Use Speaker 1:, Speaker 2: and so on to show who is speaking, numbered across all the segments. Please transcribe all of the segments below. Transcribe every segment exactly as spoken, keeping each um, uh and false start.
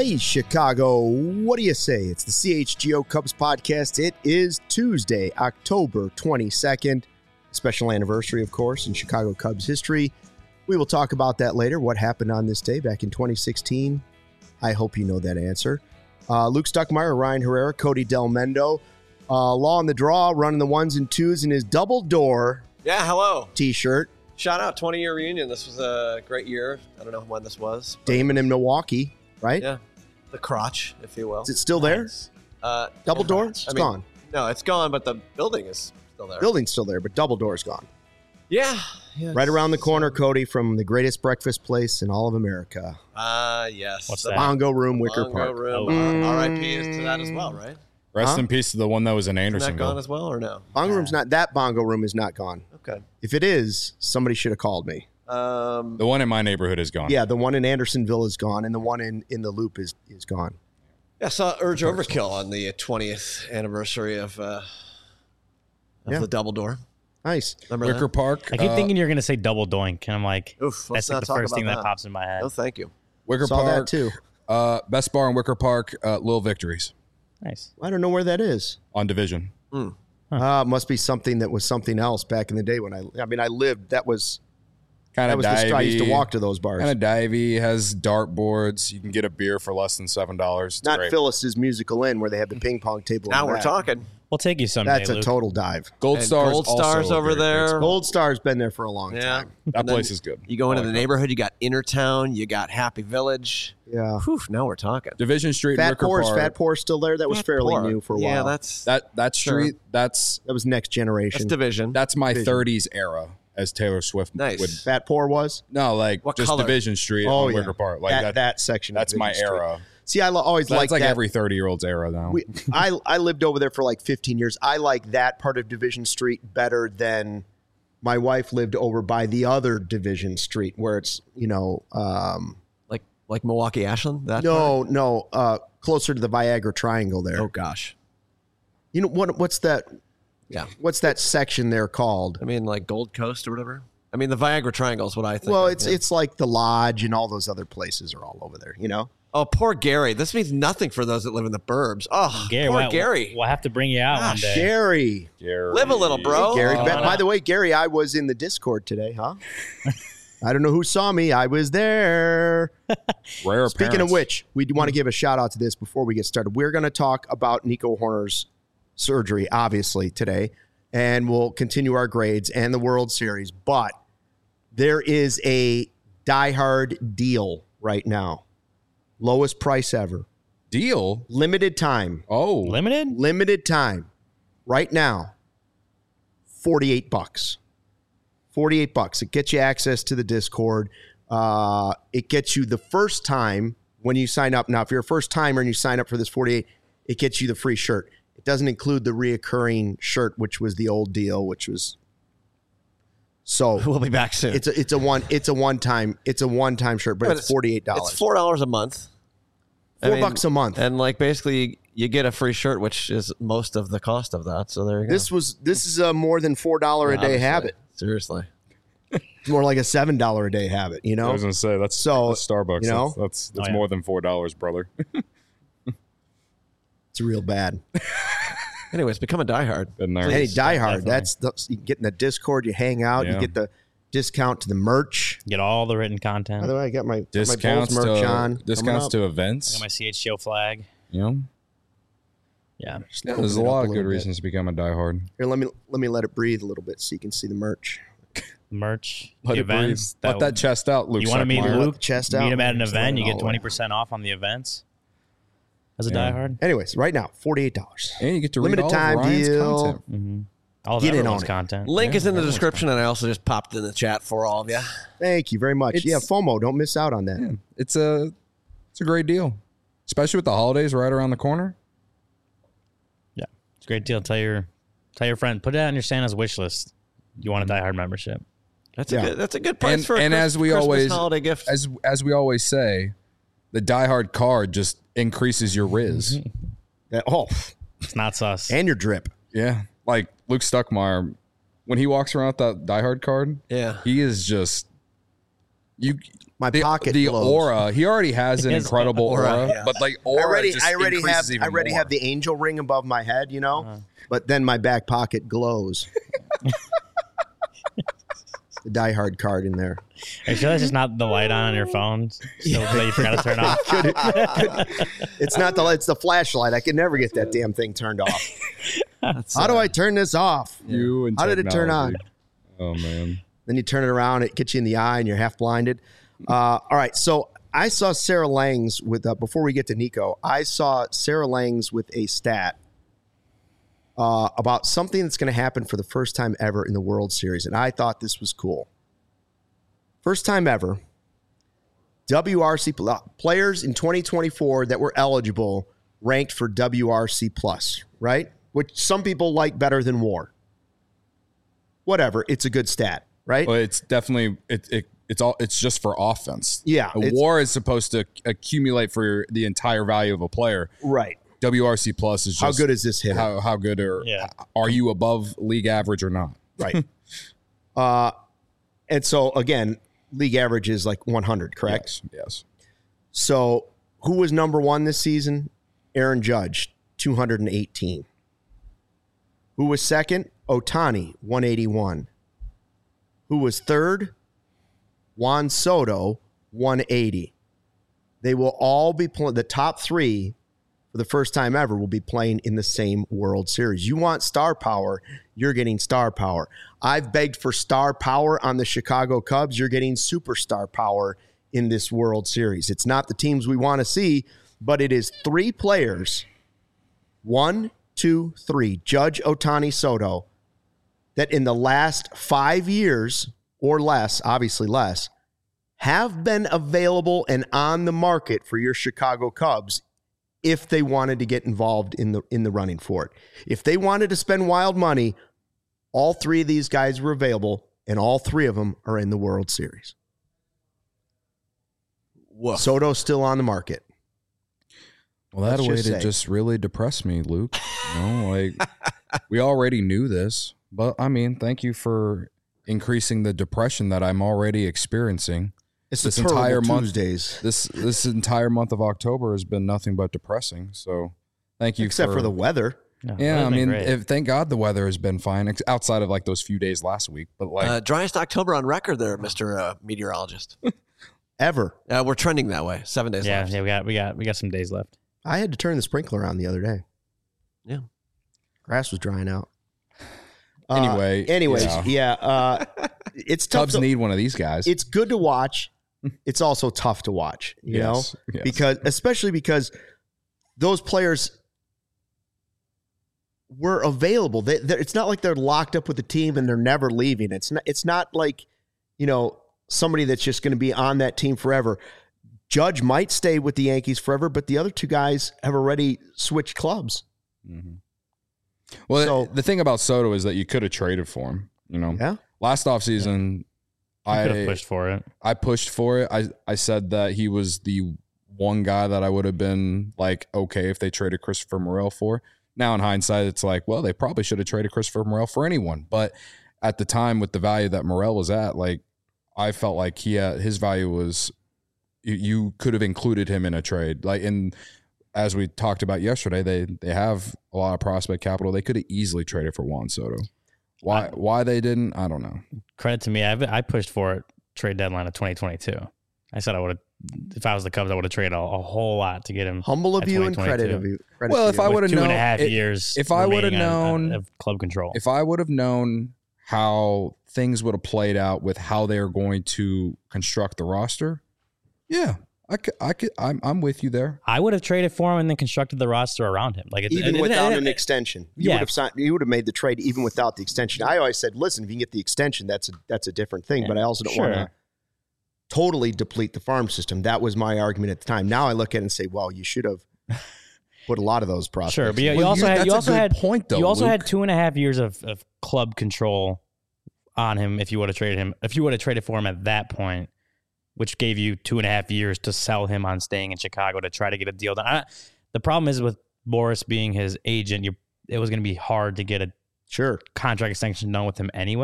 Speaker 1: Hey, Chicago, what do you say? It's the C H G O Cubs podcast. It is Tuesday, October twenty-second. Special anniversary, of course, in Chicago Cubs history. We will talk about that later, what happened on this day back in twenty sixteen. I hope you know that answer. Uh, Luke Stuckmeyer, Ryan Herrera, Cody Del Mendo. Uh, Law on the draw, running the ones and twos in his double door
Speaker 2: Yeah, hello.
Speaker 1: t-shirt.
Speaker 2: Shout out, twenty-year reunion. This was a great year. I don't know when this was.
Speaker 1: Damon in Milwaukee, right?
Speaker 2: Yeah. The crotch, if you will.
Speaker 1: Is it still there?
Speaker 2: Uh,
Speaker 1: Double
Speaker 2: yeah.
Speaker 1: door? It's
Speaker 2: I mean,
Speaker 1: gone.
Speaker 2: No, it's gone, but the building is still there.
Speaker 1: Building's still there, but double door's gone.
Speaker 2: Yeah. yeah
Speaker 1: Right around the
Speaker 2: it's-
Speaker 1: corner, Cody, from the greatest breakfast place in all of America.
Speaker 2: Ah, uh, yes.
Speaker 3: What's
Speaker 2: The
Speaker 3: that?
Speaker 1: Bongo Room, Wicker
Speaker 2: Bongo
Speaker 1: Park.
Speaker 2: Room.
Speaker 1: Oh.
Speaker 2: R I P is to that as well, right?
Speaker 4: Rest
Speaker 1: Huh?
Speaker 4: in peace to the one that was in
Speaker 2: Isn't that gone
Speaker 4: Andersonville.
Speaker 2: as well, or no?
Speaker 1: Bongo Room's not, that Bongo Room is not gone.
Speaker 2: Okay.
Speaker 1: If it is, somebody should have called me.
Speaker 2: Um,
Speaker 4: The one in my neighborhood is gone.
Speaker 1: Yeah, the one in Andersonville is gone, and the one in, in the Loop is, is gone.
Speaker 2: yeah, I saw Urge Overkill on the twentieth anniversary of, uh, of
Speaker 1: Yeah.
Speaker 2: the Double Door.
Speaker 1: Nice.
Speaker 2: Remember
Speaker 4: Wicker
Speaker 2: that?
Speaker 4: Park.
Speaker 3: I keep
Speaker 4: uh,
Speaker 3: thinking you're going to say double doink, and I'm like,
Speaker 2: Oof, let's
Speaker 3: that's
Speaker 2: not
Speaker 3: like the
Speaker 2: talk
Speaker 3: first
Speaker 2: about
Speaker 3: thing that.
Speaker 2: that.
Speaker 3: pops in my head.
Speaker 2: No, thank you.
Speaker 4: Wicker
Speaker 1: Saw
Speaker 4: Park.
Speaker 1: that too.
Speaker 4: Uh, best bar in Wicker Park. Uh, Little Victories
Speaker 3: Nice.
Speaker 1: I don't know where that is.
Speaker 4: on Division.
Speaker 1: Uh, it must be something that was something else back in the day when I, I mean, I lived, that was,
Speaker 4: Kind
Speaker 1: that
Speaker 4: of
Speaker 1: was the, st- I used to
Speaker 4: divey.
Speaker 1: walk to those bars.
Speaker 4: Kind of divey. Has dart boards. You can get a beer for less than seven dollars.
Speaker 1: Not
Speaker 4: great.
Speaker 1: Phyllis's Musical Inn where they have the ping pong table. in
Speaker 2: Now
Speaker 1: the
Speaker 2: we're
Speaker 1: back.
Speaker 2: talking.
Speaker 3: We'll take you someday,
Speaker 1: That's a
Speaker 3: Luke.
Speaker 1: total dive.
Speaker 4: Gold
Speaker 2: And
Speaker 4: Stars.
Speaker 2: Gold
Speaker 4: also
Speaker 2: Stars
Speaker 4: a
Speaker 2: over
Speaker 4: very
Speaker 2: there.
Speaker 4: great
Speaker 1: Gold Star's been there for a long
Speaker 2: Yeah.
Speaker 1: time.
Speaker 4: spot. That
Speaker 2: And then
Speaker 4: place is good.
Speaker 2: You go into
Speaker 4: I
Speaker 2: the
Speaker 4: like that.
Speaker 2: neighborhood, you got Innertown, you got Happy Village.
Speaker 1: Yeah.
Speaker 2: Whew, now we're talking.
Speaker 4: Division Street.
Speaker 1: Fat
Speaker 4: Wicker
Speaker 1: Poor's,
Speaker 4: Park.
Speaker 1: Fat Poor's still there. That was
Speaker 2: Fat
Speaker 1: fairly
Speaker 2: Poor.
Speaker 1: new for a
Speaker 2: Yeah,
Speaker 1: while.
Speaker 2: that's
Speaker 4: That that
Speaker 2: Sure.
Speaker 4: street. That's
Speaker 1: that was next generation.
Speaker 2: that's division.
Speaker 4: that's my
Speaker 1: Division.
Speaker 4: thirties era, as Taylor Swift
Speaker 2: Nice.
Speaker 4: would.
Speaker 1: Fat Poor was.
Speaker 4: No, like
Speaker 2: What
Speaker 4: just
Speaker 2: color?
Speaker 4: Division Street
Speaker 1: Oh
Speaker 4: on
Speaker 1: yeah,
Speaker 4: Wicker Park. Like
Speaker 1: that,
Speaker 4: that.
Speaker 1: that section. of
Speaker 4: that's my
Speaker 1: Division Street.
Speaker 4: era.
Speaker 1: See, I lo- always
Speaker 4: That's
Speaker 1: liked
Speaker 4: like
Speaker 1: that.
Speaker 4: every thirty year old's era now.
Speaker 1: We, I I lived over there for like fifteen years. I like that part of Division Street better than my wife lived over by the other Division Street where it's you know um,
Speaker 2: like like Milwaukee Ashland. That
Speaker 1: no no uh, closer to the Viagra Triangle there.
Speaker 2: part? Oh gosh.
Speaker 1: You know what? What's that?
Speaker 2: Yeah.
Speaker 1: What's that section there called?
Speaker 2: I mean, like Gold Coast or whatever. I mean, the Viagra Triangle is what I think.
Speaker 1: Well,
Speaker 2: of,
Speaker 1: it's
Speaker 2: yeah.
Speaker 1: it's like the Lodge and all those other places are all over there. You know.
Speaker 2: Oh, poor Gary. This means nothing for those that live in the burbs. Oh,
Speaker 3: Gary,
Speaker 2: poor
Speaker 3: we'll,
Speaker 2: Gary.
Speaker 3: We'll have to bring you out one
Speaker 2: Gosh,
Speaker 3: day.
Speaker 1: Gary.
Speaker 4: Gary.
Speaker 2: Live a little, bro.
Speaker 1: Gary.
Speaker 3: Oh,
Speaker 1: By,
Speaker 3: no.
Speaker 1: by the way, Gary, I was in the Discord today, huh? I don't know who saw me. I was there.
Speaker 4: Rare
Speaker 1: Speaking
Speaker 4: appearance.
Speaker 1: of which, we want to give a shout out to this before we get started. We're going to talk about Nico Horner's surgery, obviously, today, and we'll continue our grades and the World Series. But there is a diehard deal right now. Lowest price ever.
Speaker 4: deal.
Speaker 1: Limited time.
Speaker 4: Oh,
Speaker 3: Limited?
Speaker 1: Limited time. Right now. forty-eight bucks. forty-eight bucks. It gets you access to the Discord. Uh, it gets you the first time when you sign up. Now, if you're a first timer and you sign up for this forty-eight, it gets you the free shirt. It doesn't include the reoccurring shirt, which was the old deal, which was so
Speaker 2: We'll be back soon.
Speaker 1: it's a it's a one it's a one time it's a one time shirt, but,
Speaker 2: But
Speaker 1: it's forty-eight dollars.
Speaker 2: It's four dollars a month. I
Speaker 1: Four
Speaker 2: mean,
Speaker 1: bucks a month.
Speaker 2: And like basically you get a free shirt, which is most of the cost of that. So there you go.
Speaker 1: This was this is a more than four dollar a day
Speaker 2: Honestly.
Speaker 1: habit.
Speaker 2: Seriously.
Speaker 1: It's more like a seven dollar a day habit, you know?
Speaker 4: I was gonna say that's
Speaker 1: So,
Speaker 4: that's Starbucks.
Speaker 1: you know?
Speaker 4: that's that's, that's
Speaker 3: Oh, yeah.
Speaker 4: more than four dollars, brother.
Speaker 1: It's real bad.
Speaker 2: Anyways, become a diehard.
Speaker 4: Been there.
Speaker 1: Hey, Die Hard,
Speaker 3: definitely.
Speaker 1: that's the, you get in the Discord, you hang out, you
Speaker 4: Yeah.
Speaker 1: get the discount to the merch.
Speaker 3: Get all the written
Speaker 1: By
Speaker 3: content.
Speaker 1: the way, I got my, got my
Speaker 4: discounts
Speaker 1: Bulls merch
Speaker 4: to
Speaker 1: on.
Speaker 4: discounts to
Speaker 3: I
Speaker 4: events.
Speaker 3: got my C H G O flag.
Speaker 4: You know,
Speaker 3: Yeah.
Speaker 4: yeah, there's a
Speaker 1: Open it up
Speaker 4: lot
Speaker 1: a
Speaker 4: of good
Speaker 1: little bit.
Speaker 4: reasons to become a diehard.
Speaker 1: Here, let me let me let it breathe a little bit so you can see the merch.
Speaker 3: Merch.
Speaker 4: Let
Speaker 3: the
Speaker 4: it breathe.
Speaker 3: events.
Speaker 4: Let that chest out, Luke.
Speaker 3: You want to meet
Speaker 4: Suckmeyer.
Speaker 1: Let
Speaker 3: Luke?
Speaker 1: the chest
Speaker 3: meet
Speaker 1: out.
Speaker 3: him at an
Speaker 1: Just
Speaker 3: event.
Speaker 1: let it
Speaker 3: You
Speaker 1: all
Speaker 3: get
Speaker 1: out.
Speaker 3: twenty percent off on the events. As a
Speaker 4: Yeah.
Speaker 3: diehard.
Speaker 1: Anyways, right now, forty-eight dollars.
Speaker 4: And you get to
Speaker 1: Limited
Speaker 4: read all
Speaker 1: time
Speaker 4: of Ryan's
Speaker 1: deal.
Speaker 4: content.
Speaker 3: Mm-hmm. All of
Speaker 1: Get in
Speaker 3: everyone's
Speaker 1: on it.
Speaker 3: content.
Speaker 2: Link
Speaker 4: Yeah,
Speaker 2: is in the
Speaker 4: everyone's
Speaker 2: description, and I also just popped in the chat for all of you.
Speaker 1: Thank you very much.
Speaker 4: It's-
Speaker 1: yeah, FOMO, don't miss out on that.
Speaker 4: Yeah, it's a it's a great deal, especially with the holidays right around the corner.
Speaker 3: Yeah. It's a great deal. Tell your tell your friend. Put it on your Santa's wish list. You want a diehard membership.
Speaker 2: That's
Speaker 1: Yeah.
Speaker 2: a good. That's a good price
Speaker 4: And-
Speaker 2: for a
Speaker 4: and
Speaker 2: Chris-
Speaker 4: as we
Speaker 2: Christmas
Speaker 4: always-
Speaker 2: holiday gift.
Speaker 4: As as we always say, the diehard card just increases your riz.
Speaker 1: That- oh,
Speaker 3: It's not sus.
Speaker 1: and your drip.
Speaker 4: Yeah, like Luke Stuckmeyer, when he walks around with that diehard card,
Speaker 2: yeah.
Speaker 4: he is just You
Speaker 1: My
Speaker 4: the,
Speaker 1: pocket
Speaker 4: the
Speaker 1: glows.
Speaker 4: aura. He already has an
Speaker 3: His
Speaker 4: incredible
Speaker 2: aura,
Speaker 4: aura,
Speaker 2: yeah.
Speaker 4: but like
Speaker 1: I
Speaker 4: aura
Speaker 1: already,
Speaker 4: just
Speaker 1: I already have,
Speaker 4: increases even
Speaker 1: I already
Speaker 4: more.
Speaker 1: have the angel ring above my head, you know,
Speaker 3: Uh-huh.
Speaker 1: but then my back pocket glows. The Die Hard card in there.
Speaker 3: Are you sure that's just not the light on on your phone? So that you forgot to turn off.
Speaker 1: It's not the it's the flashlight. I can never get that damn thing turned off.
Speaker 2: That's,
Speaker 1: How do
Speaker 2: uh,
Speaker 1: I turn this off?
Speaker 4: You and
Speaker 1: How did it turn on?
Speaker 4: technology. Oh man.
Speaker 1: Then you turn it around, it gets you in the eye, and you're half blinded. Uh, all right, so I saw Sarah Langs with uh, before we get to Nico. I saw Sarah Langs with a stat uh, about something that's going to happen for the first time ever in the World Series, and I thought this was cool. First time ever, W R C pl- players in twenty twenty-four that were eligible ranked for W R C plus, right? Which some people like better than WAR. Whatever, it's a good stat, right?
Speaker 4: Well, it's definitely it, it it's all it's just for offense.
Speaker 1: Yeah,
Speaker 4: A
Speaker 1: it's-
Speaker 4: WAR is supposed to accumulate for the entire value of a player.
Speaker 1: Right.
Speaker 4: W R C plus is just
Speaker 1: How good is this hitter?
Speaker 4: how how good are
Speaker 3: Yeah.
Speaker 4: are you above league average or not?
Speaker 1: Right. uh, and so, again, league average is like one hundred, correct?
Speaker 4: Yes. Yes.
Speaker 1: So, who was number one this season? Aaron Judge, two hundred eighteen. Who was second? Ohtani, one eighty-one. Who was third? Juan Soto, one eighty. They will all be playing, the top three for the first time ever will be playing in the same World Series. You want star power, you're getting star power. I've begged for star power on the Chicago Cubs. You're getting superstar power in this World Series. It's not the teams we want to see, but it is three players, one, two, three, Judge, Ohtani, Soto, that in the last five years or less, obviously less, have been available and on the market for your Chicago Cubs if they wanted to get involved in the in the running for it. If they wanted to spend wild money, all three of these guys were available, and all three of them are in the World Series.
Speaker 2: Woof.
Speaker 1: Soto's still on the market.
Speaker 4: Well, that
Speaker 1: Let's
Speaker 4: way
Speaker 1: just
Speaker 4: to
Speaker 1: say.
Speaker 4: just really depress me, Luke. You know, like we already knew this, but I mean, thank you for increasing the depression that I'm already experiencing.
Speaker 1: It's
Speaker 4: This
Speaker 1: the terrible
Speaker 4: entire month-
Speaker 1: Tuesdays.
Speaker 4: This this entire month of October has been nothing but depressing. So, thank you.
Speaker 1: Except for, the weather.
Speaker 3: No,
Speaker 4: yeah.
Speaker 3: that's
Speaker 4: I
Speaker 3: been
Speaker 4: mean,
Speaker 3: great.
Speaker 4: if, thank God the weather has been fine ex- outside of like those few days last week. But like,
Speaker 2: Uh, driest October on record there, Mister Uh, meteorologist.
Speaker 1: Ever.
Speaker 2: Uh, we're trending that way. Seven days
Speaker 3: yeah,
Speaker 2: left.
Speaker 3: yeah, we got we got we got some days left.
Speaker 1: I had to turn the sprinkler on the other day.
Speaker 2: Yeah.
Speaker 1: Grass was drying out. Uh,
Speaker 4: Anyway,
Speaker 1: anyways,
Speaker 4: yeah.
Speaker 1: yeah, uh, it's tough.
Speaker 4: Cubs
Speaker 1: to-
Speaker 4: need one of these guys.
Speaker 1: it's good to watch. It's also tough to watch, you
Speaker 4: Yes,
Speaker 1: know,
Speaker 4: yes.
Speaker 1: because especially because those players were available. They, they're- it's not like they're locked up with the team and they're never leaving. It's not. It's not like, you know, somebody that's just going to be on that team forever. Judge might stay with the Yankees forever, but the other two guys have already switched clubs.
Speaker 4: Mhm. Well,
Speaker 1: So-
Speaker 4: the thing about Soto is that you could have traded for him. You know,
Speaker 1: Yeah.
Speaker 4: last offseason,
Speaker 3: I could have
Speaker 4: I
Speaker 3: pushed for it.
Speaker 4: I pushed for it. I I said that he was the one guy that I would have been like okay if they traded Christopher Morel for. Now in hindsight, it's like, well, they probably should have traded Christopher Morel for anyone. But at the time, with the value that Morel was at, like I felt like he had, his value was you, you could have included him in a trade. Like and as we talked about yesterday, they they have a lot of prospect capital. They could have easily traded for Juan Soto. Why why they didn't, I don't know.
Speaker 3: Credit to me, I I pushed for it trade deadline of twenty twenty-two. I said I would have, if I was the Cubs, I would have traded a, a whole lot to get him.
Speaker 1: Humble of
Speaker 3: At
Speaker 1: you and credit of
Speaker 3: twenty twenty-two.
Speaker 1: you. Credit
Speaker 4: Well,
Speaker 1: to
Speaker 4: if
Speaker 1: you.
Speaker 4: I
Speaker 3: with
Speaker 4: would've
Speaker 3: two and a
Speaker 4: known-
Speaker 3: half
Speaker 4: it-
Speaker 3: years,
Speaker 4: if I would've
Speaker 3: remaining on- on-
Speaker 4: known-
Speaker 3: of club control.
Speaker 4: If I would have known how things would have played out with how they are going to construct the roster, yeah, I could, I could, I'm, I'm with you there.
Speaker 3: I would have traded for him and then constructed the roster around him. Like it,
Speaker 1: even
Speaker 3: it-
Speaker 1: without
Speaker 3: it-
Speaker 1: an
Speaker 3: it-
Speaker 1: extension, you
Speaker 3: Yeah.
Speaker 1: would have signed. You would have made the trade even without the extension. I always said, listen, if you can get the extension, that's a that's a different thing.
Speaker 3: Yeah,
Speaker 1: But I also don't
Speaker 3: sure.
Speaker 1: want to totally deplete the farm system. That was my argument at the time. Now I look at it and say, well, you should have put a lot of those prospects.
Speaker 3: Sure, but you,
Speaker 1: in.
Speaker 3: you
Speaker 4: Well,
Speaker 3: also
Speaker 4: you-
Speaker 3: had
Speaker 4: that's
Speaker 3: you
Speaker 4: a
Speaker 3: also
Speaker 4: good
Speaker 3: had
Speaker 4: point, though,
Speaker 3: you also had
Speaker 4: Luke.
Speaker 3: two and a half years of, of club control on him if you would have traded him if you would have traded for him at that point, which gave you two and a half years to sell him on staying in Chicago to try to get a deal done. I, the problem is with Boris being his agent, you it was going to be hard to get a
Speaker 1: Sure.
Speaker 3: contract extension done with him anyway.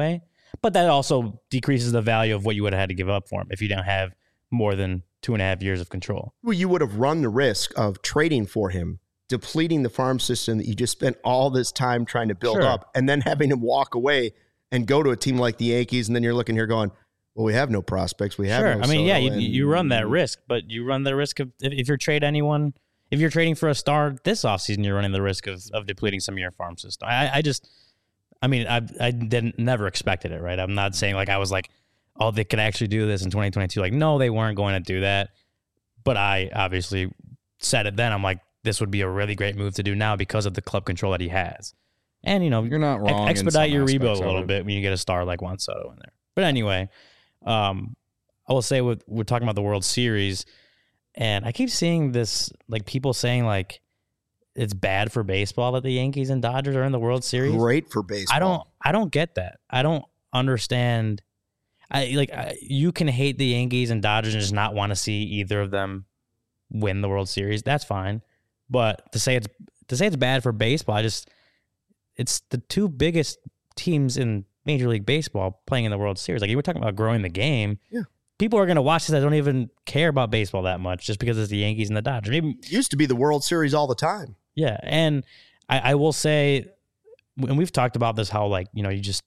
Speaker 3: But that also decreases the value of what you would have had to give up for him if you didn't have more than two and a half years of control.
Speaker 1: Well, you would have run the risk of trading for him, depleting the farm system that you just spent all this time trying to build
Speaker 3: Sure.
Speaker 1: up, and then having him walk away and go to a team like the Yankees, and then you're looking here going, well, we have no prospects. We have
Speaker 3: Sure.
Speaker 1: no
Speaker 3: I mean, yeah,
Speaker 1: Soto,
Speaker 3: you,
Speaker 1: and-
Speaker 3: you run that risk, but you run the risk of if, if you're trade anyone, if you're trading for a star this offseason, you're running the risk of, of depleting some of your farm system. I, I just, I mean, I I didn't never expected it, right? I'm not saying like I was like, oh, they could actually do this in twenty twenty-two. Like, no, they weren't going to do that. But I obviously said it then. I'm like, this would be a really great move to do now because of the club control that he has. And, you know,
Speaker 4: You're not wrong.
Speaker 3: ex-
Speaker 4: in
Speaker 3: expedite
Speaker 4: some
Speaker 3: your
Speaker 4: aspects
Speaker 3: rebuild a
Speaker 4: of
Speaker 3: little
Speaker 4: it.
Speaker 3: bit when you get a star like Juan Soto in there. But anyway, um, I will say with, we're talking about the World Series, and I keep seeing this, like people saying like it's bad for baseball that the Yankees and Dodgers are in the World Series.
Speaker 1: Great for baseball.
Speaker 3: I don't, I don't get that. I don't understand. I like I, you can hate the Yankees and Dodgers and just not want to see either of them win the World Series. That's fine, but to say it's to say it's bad for baseball, I just it's the two biggest teams in Major League Baseball playing in the World Series. Like you were talking about growing the game.
Speaker 1: Yeah.
Speaker 3: People are going to watch this that don't even care about baseball that much just because it's the Yankees and the Dodgers. Maybe
Speaker 1: It used to be the World Series all the time.
Speaker 3: yeah, and I, I will say, and we've talked about this, how like you know you just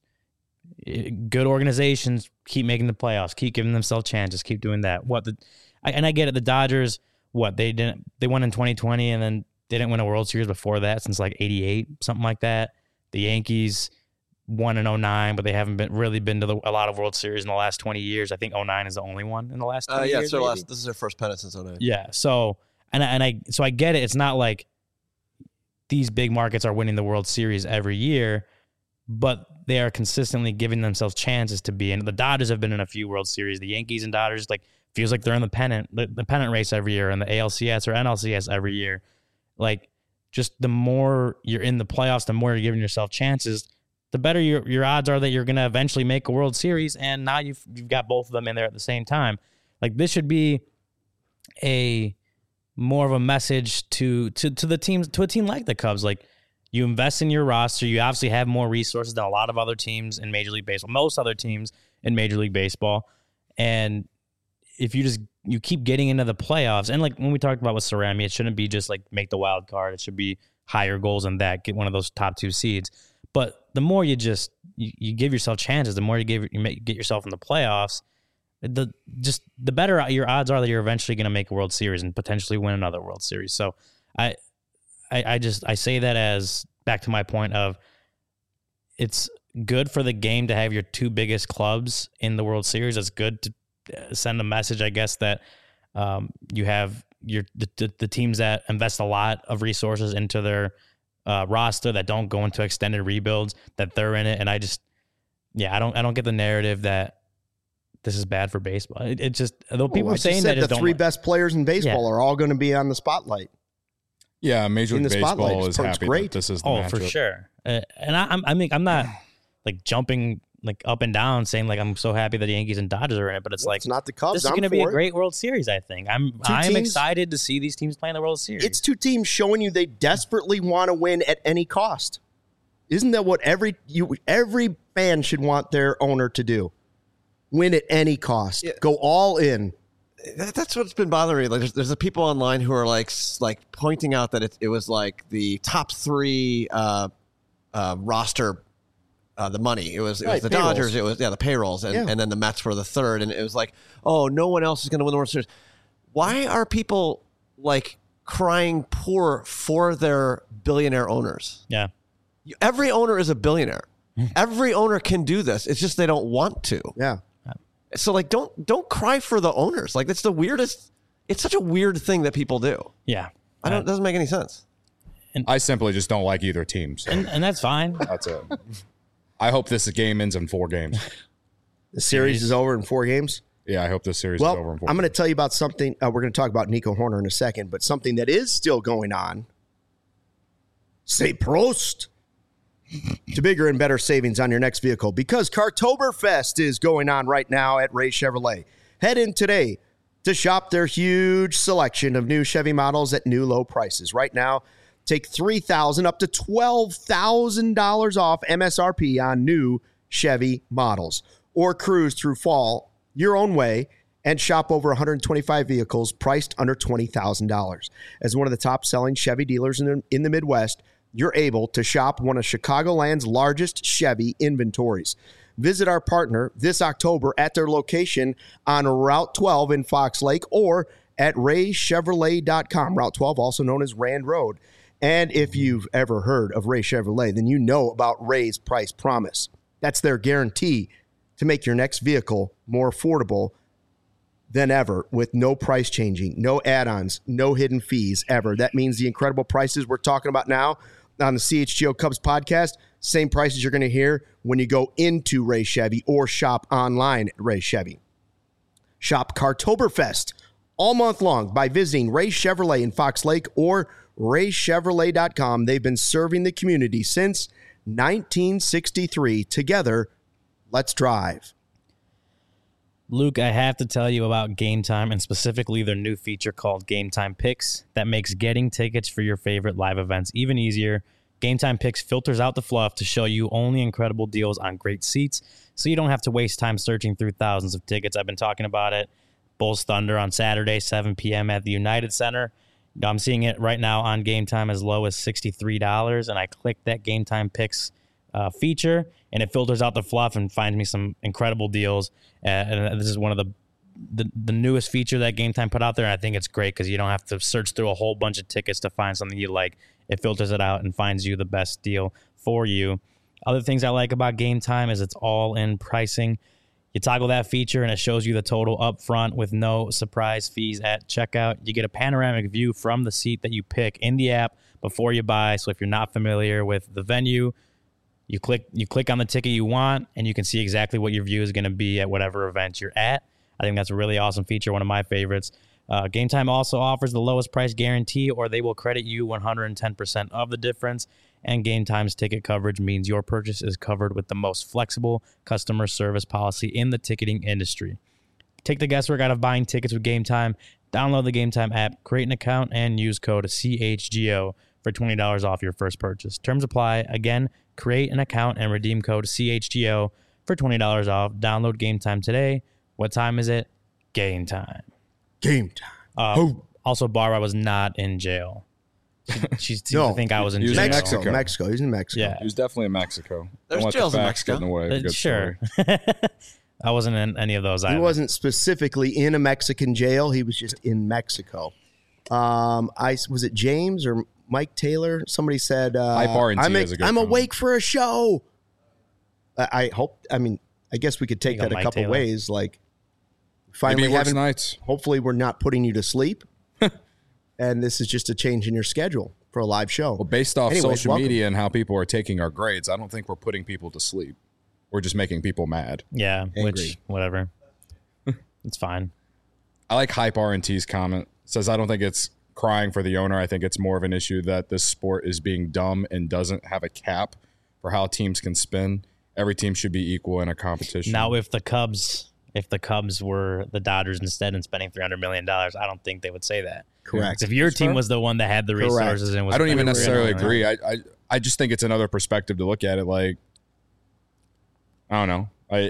Speaker 3: good organizations keep making the playoffs, keep giving themselves chances, keep doing that. What the I, and I get it. The Dodgers, what they didn't, they won in twenty twenty, and then they didn't win a World Series before that since like eighty-eight, something like that. The Yankees won in oh nine, but they haven't been really been to the, a lot of World Series in the last twenty years. I think oh nine is the only one in the last twenty
Speaker 2: Uh, yeah,
Speaker 3: years.
Speaker 2: so
Speaker 3: maybe.
Speaker 2: last, this is their first pennant since oh nine.
Speaker 3: Yeah. So and I, and I so I get it. It's not like these big markets are winning the World Series every year, but they are consistently giving themselves chances to be in. The Dodgers have been in a few World Series. The Yankees and Dodgers like feels like they're in the pennant the, the pennant race every year, and the A L C S or N L C S every year. Like just the more you're in the playoffs, the more you're giving yourself chances, the better your your odds are that you're going to eventually make a World Series. And now you've you've got both of them in there at the same time. Like this should be a more of a message to to to the teams to a team like the Cubs. Like you invest in your roster, you obviously have more resources than a lot of other teams in Major League Baseball, most other teams in Major League Baseball, and if you just you keep getting into the playoffs, and like when we talked about with Cerami, it shouldn't be just like make the wild card. It should be higher goals than that, get one of those top two seeds. But the more you just you, you give yourself chances, the more you give you make, get yourself in the playoffs, the just the better your odds are that you're eventually going to make a World Series and potentially win another World Series. So I, I I just I say that as back to my point of it's good for the game to have your two biggest clubs in the World Series. It's good to send a message, I guess, that um, you have your the, the, the teams that invest a lot of resources into their uh, roster that don't go into extended rebuilds, that they're in it. And I just, yeah, I don't I don't get the narrative that this is bad for baseball. It, it just though people
Speaker 1: Well, I
Speaker 3: are
Speaker 1: just
Speaker 3: saying
Speaker 1: said
Speaker 3: that, just
Speaker 1: the
Speaker 3: don't
Speaker 1: three
Speaker 3: like-
Speaker 1: best players in baseball
Speaker 3: Yeah.
Speaker 1: are all going to be on the spotlight.
Speaker 4: Yeah, Major
Speaker 1: In
Speaker 4: League
Speaker 1: the spotlight,
Speaker 4: Baseball
Speaker 1: it's-
Speaker 4: is
Speaker 1: it's
Speaker 4: happy
Speaker 1: great.
Speaker 4: that this is the
Speaker 3: Oh, for
Speaker 4: matchup.
Speaker 3: sure. Uh, and I, I'm, I mean, I'm not like jumping like up and down saying like I'm so happy that the Yankees and Dodgers are in it, but it's like
Speaker 1: It's not the Cubs.
Speaker 3: this is
Speaker 1: I'm
Speaker 3: going to be a
Speaker 1: for it.
Speaker 3: great World Series. I think I'm I'm
Speaker 1: teams-
Speaker 3: excited to see these teams playing the World Series.
Speaker 1: It's two teams showing you they desperately want to win at any cost. Isn't that what every you every fan should want their owner to do? Win at any cost.
Speaker 2: Yeah.
Speaker 1: Go all in.
Speaker 2: That, that's what's been bothering me. Like, there's, there's the people online who are like, s- like pointing out that it, it was like the top three uh, uh, roster, uh, the money. It was it
Speaker 1: Right,
Speaker 2: was the
Speaker 1: payrolls.
Speaker 2: Dodgers. It was yeah the payrolls, and,
Speaker 1: Yeah.
Speaker 2: and then the Mets were the third. And it was like, oh, no one else is going to win the World Series. Why are people like crying poor for their billionaire owners?
Speaker 3: yeah.
Speaker 2: You- Every owner is a billionaire. Every owner can do this. It's just they don't want to.
Speaker 1: Yeah.
Speaker 2: So like, don't don't cry for the owners. Like that's the weirdest. It's such a weird thing that people do.
Speaker 3: Yeah.
Speaker 2: I don't. It doesn't make any sense.
Speaker 4: I simply just don't like either team. So
Speaker 3: and, and that's fine.
Speaker 4: that's it. I hope this game ends in four games.
Speaker 1: The series is over in four games.
Speaker 4: Yeah, I hope this series
Speaker 1: Well,
Speaker 4: is over in four
Speaker 1: I'm going to
Speaker 4: games.
Speaker 1: tell you about something. Uh, we're going to talk about Nico Horner in a second, but something that is still going on. Say Prost to bigger and better savings on your next vehicle because Cartoberfest is going on right now at Ray Chevrolet. Head in today to shop their huge selection of new Chevy models at new low prices. Right now, take three thousand dollars up to twelve thousand dollars off M S R P on new Chevy models. Or cruise through fall your own way and shop over one hundred twenty-five vehicles priced under twenty thousand dollars. As one of the top-selling Chevy dealers in the, in the Midwest, you're able to shop one of Chicagoland's largest Chevy inventories. Visit our partner this October at their location on Route twelve in Fox Lake or at ray chevrolet dot com. Route twelve, also known as Rand Road. And if you've ever heard of Ray Chevrolet, then you know about Ray's Price Promise. That's their guarantee to make your next vehicle more affordable than ever with no price changing, no add-ons, no hidden fees ever. That means the incredible prices we're talking about now on the C H G O Cubs podcast, same prices you're going to hear when you go into Ray Chevy or shop online at Ray Chevy. Shop Cartoberfest all month long by visiting Ray Chevrolet in Fox Lake or ray chevrolet dot com. They've been serving the community since nineteen sixty-three. Together, let's drive.
Speaker 3: Luke, I have to tell you about Game Time and specifically their new feature called Game Time Picks that makes getting tickets for your favorite live events even easier. Game Time Picks filters out the fluff to show you only incredible deals on great seats, so you don't have to waste time searching through thousands of tickets. I've been talking about it. Bulls Thunder on Saturday, seven p.m. at the United Center. I'm seeing it right now on Game Time as low as sixty-three dollars, and I clicked that Game Time Picks uh, feature, and it filters out the fluff and finds me some incredible deals. Uh, and this is one of the, the the newest feature that Game Time put out there, and I think it's great because you don't have to search through a whole bunch of tickets to find something you like. It filters it out and finds you the best deal for you. Other things I like about Game Time is it's all in pricing. You toggle that feature and it shows you the total up front with no surprise fees at checkout. You get a panoramic view from the seat that you pick in the app before you buy. So if you're not familiar with the venue, you click you click on the ticket you want and you can see exactly what your view is going to be at whatever event you're at. I think that's a really awesome feature, one of my favorites. Uh, Game Time also offers the lowest price guarantee, or they will credit you one hundred ten percent of the difference. And Game Time's ticket coverage means your purchase is covered with the most flexible customer service policy in the ticketing industry. Take the guesswork out of buying tickets with Game Time. Download the Game Time app, create an account, and use code C H G O for twenty dollars off your first purchase. Terms apply. Again, create an account and redeem code C H G O for twenty dollars off. Download Game Time today. What time is it? Game time.
Speaker 1: Game time.
Speaker 3: Uh,
Speaker 1: oh.
Speaker 3: Also, Barbara was not in jail. She, she
Speaker 1: no,
Speaker 3: seemed to think I was in
Speaker 4: he was
Speaker 3: jail.
Speaker 4: in
Speaker 1: Mexico.
Speaker 4: Mexico.
Speaker 1: Mexico. He's in Mexico.
Speaker 3: Yeah.
Speaker 4: He was definitely in Mexico.
Speaker 2: There's
Speaker 4: Don't let
Speaker 2: jails
Speaker 4: the
Speaker 2: in
Speaker 4: facts
Speaker 2: Mexico.
Speaker 4: get in the way of a
Speaker 3: Uh,
Speaker 4: good
Speaker 3: sure.
Speaker 4: story.
Speaker 3: I wasn't in any of those
Speaker 1: He
Speaker 3: either.
Speaker 1: wasn't specifically in a Mexican jail. He was just in Mexico. Um, I was it James or Mike Taylor? Somebody said, uh,
Speaker 4: Hype R and T
Speaker 1: I'm,
Speaker 4: is a good
Speaker 1: I'm
Speaker 4: comment.
Speaker 1: awake for a show. I, I hope, I mean, I guess we could take
Speaker 3: You go,
Speaker 1: that a
Speaker 3: Mike
Speaker 1: couple
Speaker 3: Taylor.
Speaker 1: ways. Like,
Speaker 4: Maybe
Speaker 1: finally
Speaker 4: he works
Speaker 1: having,
Speaker 4: nights.
Speaker 1: hopefully we're not putting you to sleep. And this is just a change in your schedule for a live show.
Speaker 4: Well, based off
Speaker 1: Anyways,
Speaker 4: social
Speaker 1: welcome.
Speaker 4: media and how people are taking our grades, I don't think we're putting people to sleep. We're just making people mad.
Speaker 3: Yeah,
Speaker 1: Angry.
Speaker 3: which, whatever. It's fine.
Speaker 4: I like Hype R and T's comment. Says, I don't think it's crying for the owner. I think it's more of an issue that this sport is being dumb and doesn't have a cap for how teams can spin. Every team should be equal in a competition.
Speaker 3: Now, if the Cubs, if the Cubs were the Dodgers instead and spending three hundred million dollars, I don't think they would say that.
Speaker 1: Correct.
Speaker 3: If your
Speaker 4: That's
Speaker 3: team
Speaker 4: fair.
Speaker 3: was the one that had the
Speaker 1: Correct.
Speaker 3: resources and was
Speaker 4: I don't even
Speaker 3: spending
Speaker 4: necessarily
Speaker 3: three hundred million
Speaker 4: agree. I, I I just think it's another perspective to look at it. Like, I don't know. I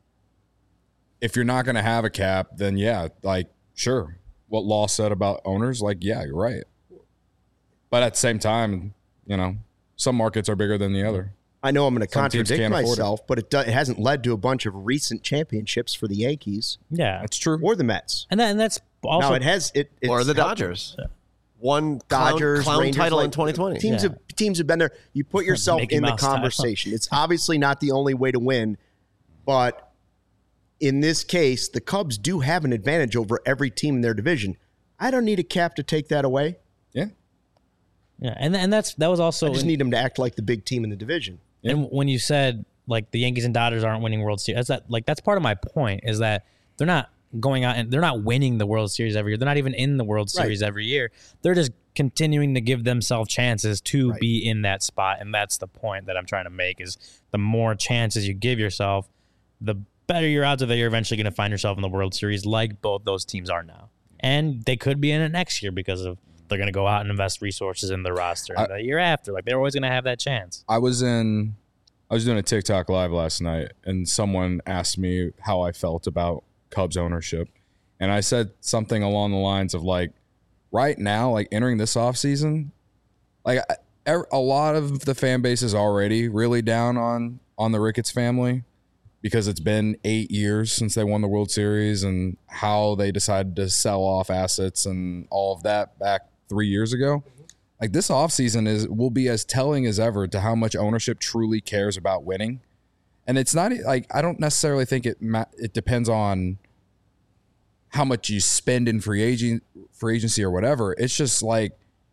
Speaker 4: if you're not going to have a cap, then yeah, like sure. What Law said about owners, like yeah, you're right. But at the same time, you know, some markets are bigger than the other.
Speaker 1: I know I'm going to
Speaker 4: Some teams
Speaker 1: contradict
Speaker 4: can't afford it.
Speaker 1: myself, but it, do, it hasn't led to a bunch of recent championships for the Yankees
Speaker 3: Yeah,
Speaker 4: That's true.
Speaker 1: or the Mets.
Speaker 3: and that, and that's also
Speaker 1: no, it has. It it's
Speaker 2: Or the
Speaker 1: helped-
Speaker 2: Dodgers. One clown,
Speaker 1: Dodgers,
Speaker 2: clown
Speaker 1: Rangers,
Speaker 2: title
Speaker 1: like,
Speaker 2: in twenty twenty.
Speaker 1: Teams
Speaker 3: Yeah.
Speaker 1: have teams have been there. You put yourself
Speaker 3: Mickey
Speaker 1: in the
Speaker 3: Mouse title.
Speaker 1: conversation. It's obviously not the only way to win, but in this case, the Cubs do have an advantage over every team in their division. I don't need a cap to take that away.
Speaker 4: Yeah.
Speaker 3: yeah, and and that's that was also
Speaker 1: I just
Speaker 3: in-
Speaker 1: need them to act like the big team in the division.
Speaker 3: And when you said like the Yankees and Dodgers aren't winning World Series, that's that like that's part of my point is that they're not going out and they're not winning the World Series every year. They're not even in the World
Speaker 1: Right.
Speaker 3: Series every year. They're just continuing to give themselves chances to
Speaker 1: Right.
Speaker 3: be in that spot, and that's the point that I'm trying to make. Is the more chances you give yourself, the better your odds are that you're eventually going to find yourself in the World Series, like both those teams are now. And they could be in it next year because of they're going to go out and invest resources in the roster
Speaker 4: I-
Speaker 3: the year after. Like they're always going to have that chance.
Speaker 4: I was in I I was doing a TikTok live last night, and someone asked me how I felt about Cubs ownership. And I said something along the lines of like, right now, like entering this offseason, like a lot of the fan base is already really down on, on the Ricketts family because it's been eight years since they won the World Series and how they decided to sell off assets and all of that back three years ago. Like this offseason is will be as telling as ever to how much ownership truly cares about winning. And it's not like I don't necessarily think it it depends on how much you spend in free agent free agency or whatever. It's just like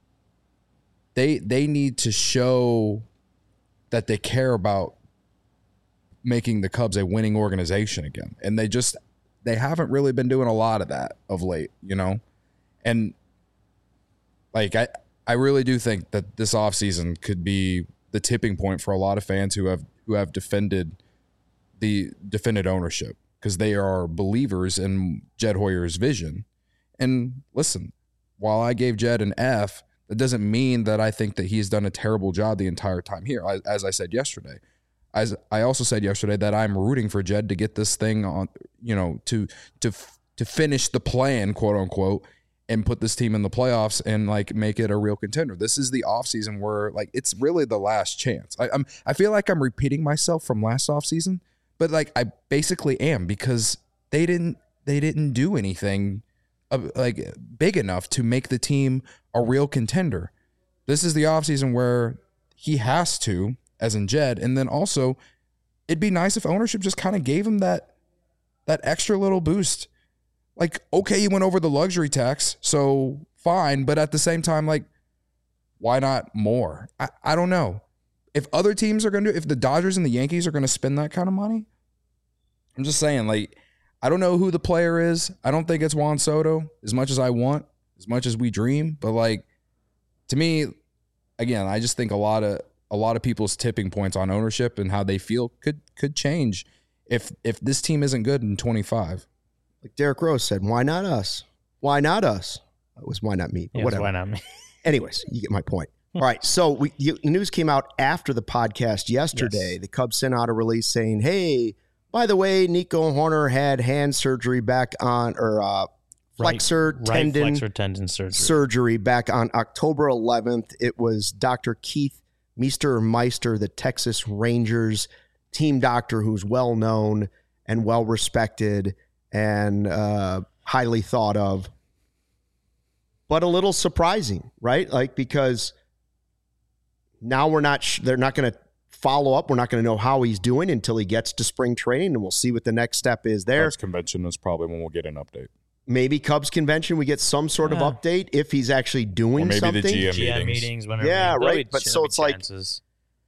Speaker 4: they they need to show that they care about making the Cubs a winning organization again. And they just they haven't really been doing a lot of that of late, you know? And like I I really do think that this offseason could be the tipping point for a lot of fans who have who have defended the defended ownership because they are believers in Jed Hoyer's vision. And listen, while I gave Jed an F, that doesn't mean that I think that he's done a terrible job the entire time here. I, as I said yesterday, as I also said yesterday that I'm rooting for Jed to get this thing on, you know, to to to finish the plan, quote unquote, and put this team in the playoffs and like make it a real contender. This is the offseason where like it's really the last chance. I, I'm I feel like I'm repeating myself from last offseason, but like I basically am because they didn't they didn't do anything uh, like big enough to make the team a real contender. This is the offseason where he has to, as in Jed, and then also it'd be nice if ownership just kind of gave him that that extra little boost. Like, okay, you went over the luxury tax, so fine. But at the same time, like, why not more? I, I don't know. If other teams are going to, if the Dodgers and the Yankees are going to spend that kind of money, I'm just saying, like, I don't know who the player is. I don't think it's Juan Soto as much as I want, as much as we dream. But, like, to me, again, I just think a lot of a lot of people's tipping points on ownership and how they feel could could change if if this team isn't good in twenty-five.
Speaker 1: Like Derek Rose said, why not us? Why not us? It was why not me? But
Speaker 3: Yes,
Speaker 1: whatever.
Speaker 3: why not me?
Speaker 1: Anyways, you get my point. All right. So we, you, the news came out after the podcast yesterday.
Speaker 3: Yes.
Speaker 1: The Cubs sent out a release saying, hey, by the way, Nico Hoerner had hand surgery back on, or uh, flexor
Speaker 3: right,
Speaker 1: tendon,
Speaker 3: right flexor tendon surgery.
Speaker 1: surgery back on October eleventh. It was Doctor Keith Meister Meister, the Texas Rangers team doctor who's well known and well respected and uh, highly thought of, but a little surprising, right? Like, because now we're not, sh- they're not going to follow up. We're not going to know how he's doing until he gets to spring training, and we'll see what the next step is there.
Speaker 4: Cubs convention is probably when we'll get an update.
Speaker 1: Maybe Cubs convention, we get some sort
Speaker 3: Yeah.
Speaker 1: of update if he's actually doing
Speaker 4: Or maybe
Speaker 1: something.
Speaker 4: the G M
Speaker 3: G M
Speaker 4: meetings.
Speaker 3: meetings, whenever.
Speaker 1: Yeah,
Speaker 3: there'll
Speaker 1: right.
Speaker 3: be-
Speaker 1: But
Speaker 3: there'll
Speaker 1: so
Speaker 3: be
Speaker 1: it's like-
Speaker 3: chances.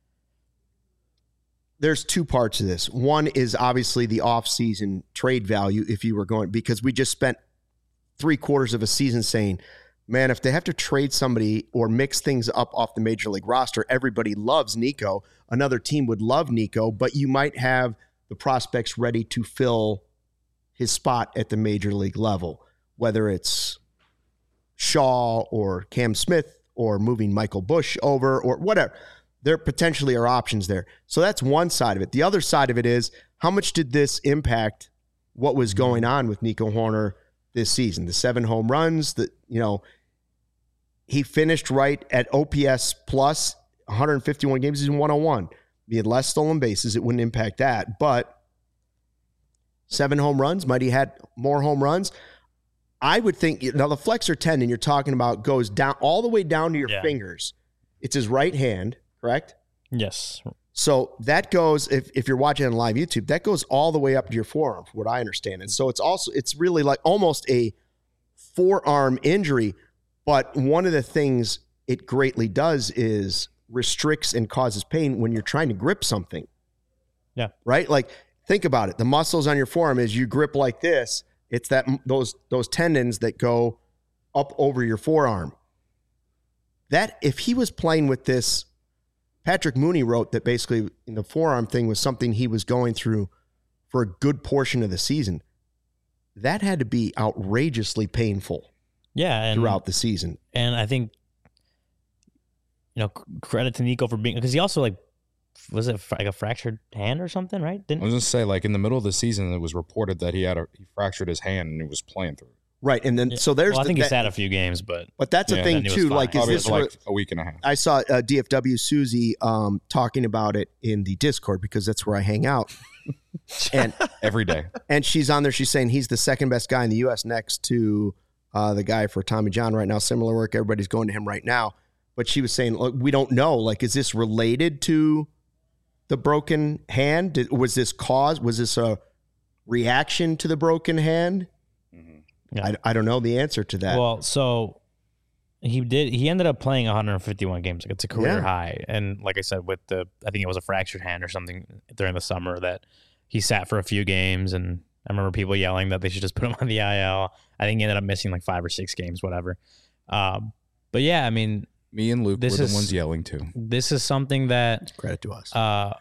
Speaker 1: There's two parts of this. One is obviously the off-season trade value if you were going, because we just spent three quarters of a season saying, man, if they have to trade somebody or mix things up off the major league roster, everybody loves Nico. Another team would love Nico, but you might have the prospects ready to fill his spot at the major league level, whether it's Shaw or Cam Smith or moving Michael Busch over or whatever. There potentially are options there. So that's one side of it. The other side of it is, how much did this impact what was going on with Nico Hoerner this season? The seven home runs, that, you know, he finished right at O P S plus one hundred fifty-one games. He's in one oh one. He had less stolen bases. It wouldn't impact that. But seven home runs, might he had more home runs? I would think, now the flexor tendon you're talking about goes down all the way down to your
Speaker 3: Yeah.
Speaker 1: fingers. It's his right hand, correct?
Speaker 3: Yes.
Speaker 1: So that goes, if, if you're watching on live YouTube, that goes all the way up to your forearm, from what I understand. And so it's also, it's really like almost a forearm injury. But one of the things it greatly does is restricts and causes pain when you're trying to grip something.
Speaker 3: Yeah.
Speaker 1: Right? Like, think about it. The muscles on your forearm, as you grip like this, it's that those those tendons that go up over your forearm. That, if he was playing with this, Patrick Mooney wrote that basically in the forearm thing was something he was going through for a good portion of the season. That had to be outrageously painful
Speaker 3: Yeah, and
Speaker 1: throughout the season.
Speaker 3: and I think, you know, c- credit to Nico for being, because he also like was it like a fractured hand or something, right?
Speaker 4: I
Speaker 3: Didn't
Speaker 4: was going to say, like in the middle of the season, it was reported that he had a he fractured his hand and he was playing through.
Speaker 1: Right, and then so there's.
Speaker 3: Well, I
Speaker 1: the,
Speaker 3: think
Speaker 1: that,
Speaker 3: he sat a few games, but
Speaker 1: but that's a
Speaker 4: Yeah,
Speaker 1: thing
Speaker 3: then he was
Speaker 1: too.
Speaker 3: fine.
Speaker 1: Like, is
Speaker 4: Probably
Speaker 1: this
Speaker 4: like
Speaker 1: re-
Speaker 4: a week and a half.
Speaker 1: I saw uh, D F W Susie um, talking about it in the Discord because that's where I hang out, and
Speaker 4: Every day.
Speaker 1: and she's on there. She's saying he's the second best guy in the U S next to uh, the guy for Tommy John right now. Similar work. Everybody's going to him right now. But she was saying, look, we don't know. Like, is this related to the broken hand? Did, was this cause? Was this a reaction to the broken hand?
Speaker 3: Yeah.
Speaker 1: I, I don't know the answer to that.
Speaker 3: Well, so he did. He ended up playing one hundred fifty-one games. Like, it's a career
Speaker 1: Yeah.
Speaker 3: high. And like I said, with the, I think it was a fractured hand or something during the summer that he sat for a few games. And I remember people yelling that they should just put him on the I L. I think he ended up missing like five or six games, whatever. Um, but yeah, I mean,
Speaker 4: Me and Luke
Speaker 3: This
Speaker 4: were the
Speaker 3: is-
Speaker 4: ones yelling too.
Speaker 3: this is something that
Speaker 1: Credit to us.
Speaker 3: Uh,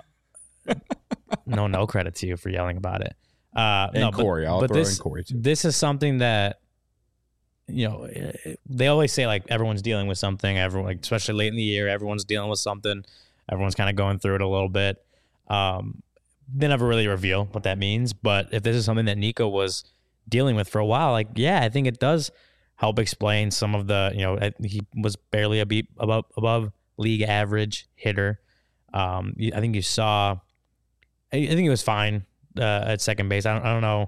Speaker 3: no, no credit to you for yelling about it. Uh,
Speaker 4: And
Speaker 3: no, but-
Speaker 4: Corey. I'll
Speaker 3: but
Speaker 4: throw
Speaker 3: this,
Speaker 4: in Corey too.
Speaker 3: This is something that, you know, eh, they always say like everyone's dealing with something. Everyone, like, especially late in the year, everyone's dealing with something. Everyone's kind of going through it a little bit. Um, they never really reveal what that means. But if this is something that Nico was dealing with for a while, like, yeah, I think it does help explain some of the, you know, I- he was barely a beat above above league average hitter. Um, you- I think you saw, I, I think he was fine uh, at second base. I don't, I don't know.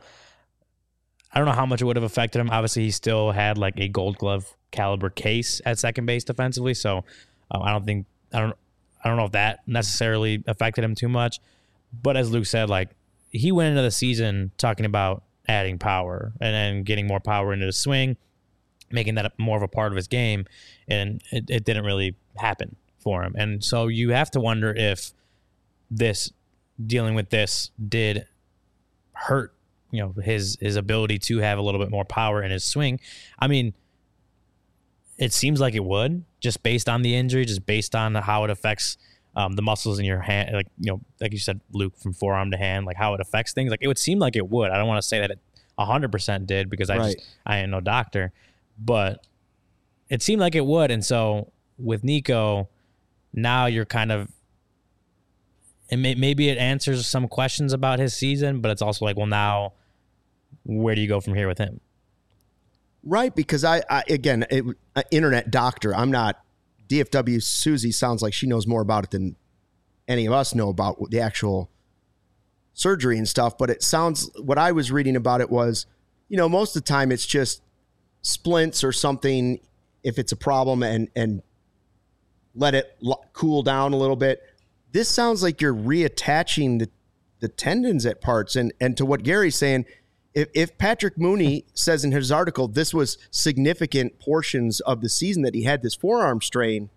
Speaker 3: I don't know how much it would have affected him. Obviously, he still had like a Gold Glove caliber case at second base defensively. So um, I don't think I don't I don't know if that necessarily affected him too much. But as Luke said, like he went into the season talking about adding power and then getting more power into the swing, making that more of a part of his game, and it, it didn't really happen for him. And so you have to wonder if this dealing with this did hurt, you know, his his ability to have a little bit more power in his swing. I mean, it seems like it would, just based on the injury, just based on how it affects um, the muscles in your hand, like, you know, like you said, Luke, from forearm to hand, like how it affects things. Like, it would seem like it would. I don't want to say that it one hundred percent did because I
Speaker 1: Right.
Speaker 3: just I ain't no doctor, but it seemed like it would. And so with Nico, now you're kind of, and may, maybe it answers some questions about his season, but it's also like, well, now where do you go from here with him?
Speaker 1: Right, because I, I again, it, uh, internet doctor. I'm not. D F W Susie sounds like she knows more about it than any of us know about the actual surgery and stuff. But it sounds, what I was reading about it was, you know, most of the time it's just splints or something if it's a problem, and and let it lo- cool down a little bit. This sounds like you're reattaching the the tendons at parts, and and to what Gary's saying. If, if Patrick Mooney says in his article this was significant portions of the season that he had this forearm strain,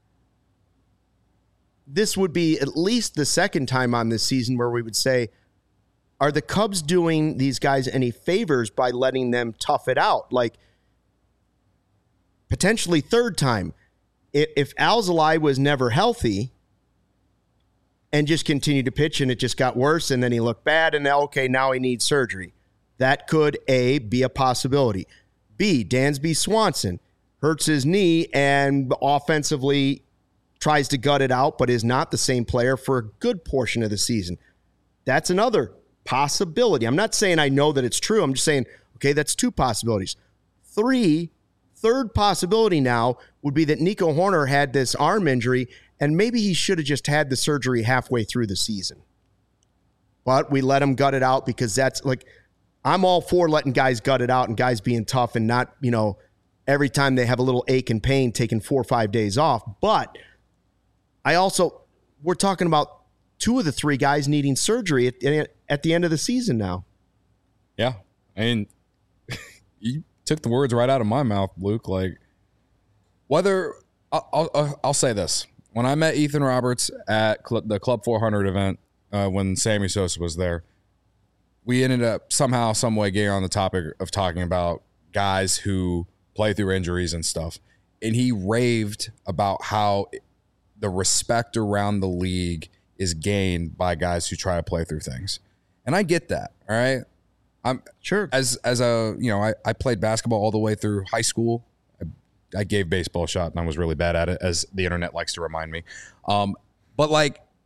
Speaker 1: this would be at least the second time on this season where we would say, are the Cubs doing these guys any favors by letting them tough it out? Like, potentially third time. If, if Alzolay was never healthy and just continued to pitch and it just got worse and then he looked bad and now, okay, now he needs surgery. That could, A, be a possibility. B, Dansby Swanson hurts his knee and offensively tries to gut it out, but is not the same player for a good portion of the season. That's another possibility. I'm not saying I know that it's true. I'm just saying, okay, that's two possibilities. Three, third possibility now would be that Nico Horner had this arm injury and maybe he should have just had the surgery halfway through the season. But we let him gut it out because that's like, I'm all for letting guys gut it out and guys being tough and not, you know, every time they have a little ache and pain taking four or five days off. But I also, we're talking about two of the three guys needing surgery at, at the end of the season now.
Speaker 4: Yeah. I mean, you took the words right out of my mouth, Luke. Like, whether, I'll, I'll, I'll say this. When I met Ethan Roberts at Cl- the Club four hundred event, uh, when Sammy Sosa was there, we ended up somehow, some way getting on the topic of talking about guys who play through injuries and stuff. And he raved about how the respect around the league is gained by guys who try to play through things. And I get that. All right. I'm
Speaker 1: sure
Speaker 4: as, as a, you know, I, I played basketball all the way through high school. I, I gave baseball a shot and I was really bad at it, as the internet likes to remind me. Um, but like,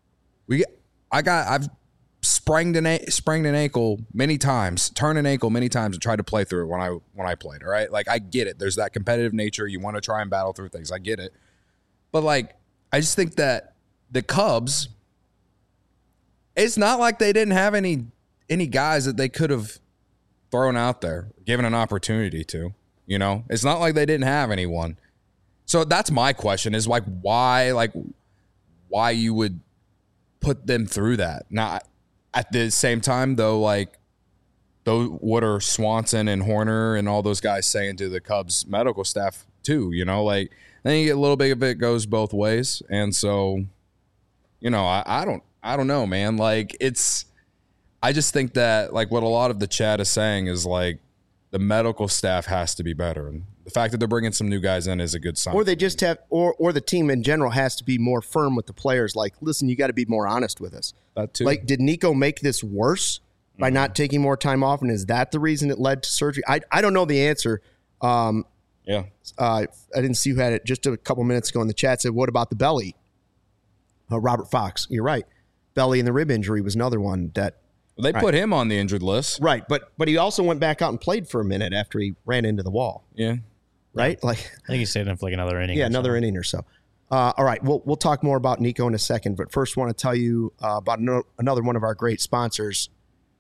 Speaker 4: We, I got, I've sprained an sprained an ankle many times, turned an ankle many times, and tried to play through it when I when I played. All right, like I get it. There's that competitive nature. You want to try and battle through things. I get it, but like I just think that the Cubs, it's not like they didn't have any any guys that they could have thrown out there, given an opportunity to. You know, it's not like they didn't have anyone. So that's my question: is like why, like why you would put them through that? Now, at the same time, though, like those what are Swanson and Horner and all those guys saying to the Cubs medical staff too? You know, like I think a little bit of it goes both ways, and so you know, I, I don't, I don't know, man. Like it's, I just think that like what a lot of the chat is saying is like the medical staff has to be better, and the fact that they're bringing some new guys in is a good sign.
Speaker 1: Or they just have, or or the team in general has to be more firm with the players. Like, listen, you got to be more honest with us.
Speaker 4: That too.
Speaker 1: Like, did Nico make this worse by mm-hmm. not taking more time off, and is that the reason it led to surgery? I I don't know the answer. Um,
Speaker 4: yeah,
Speaker 1: uh, I didn't see who had it just a couple minutes ago in the chat. Said, what about the belly? Uh, Robert Fox, you're right. Belly and the rib injury was another one that
Speaker 4: well, they put right. him on the injured list,
Speaker 1: right? But but he also went back out and played for a minute after he ran into the wall.
Speaker 4: Yeah,
Speaker 1: right. Like
Speaker 3: I think he stayed in for like another inning.
Speaker 1: Yeah, another inning or so. Uh, all right, we'll we'll talk more about Nico in a second, but first, want to tell you uh, about no, another one of our great sponsors.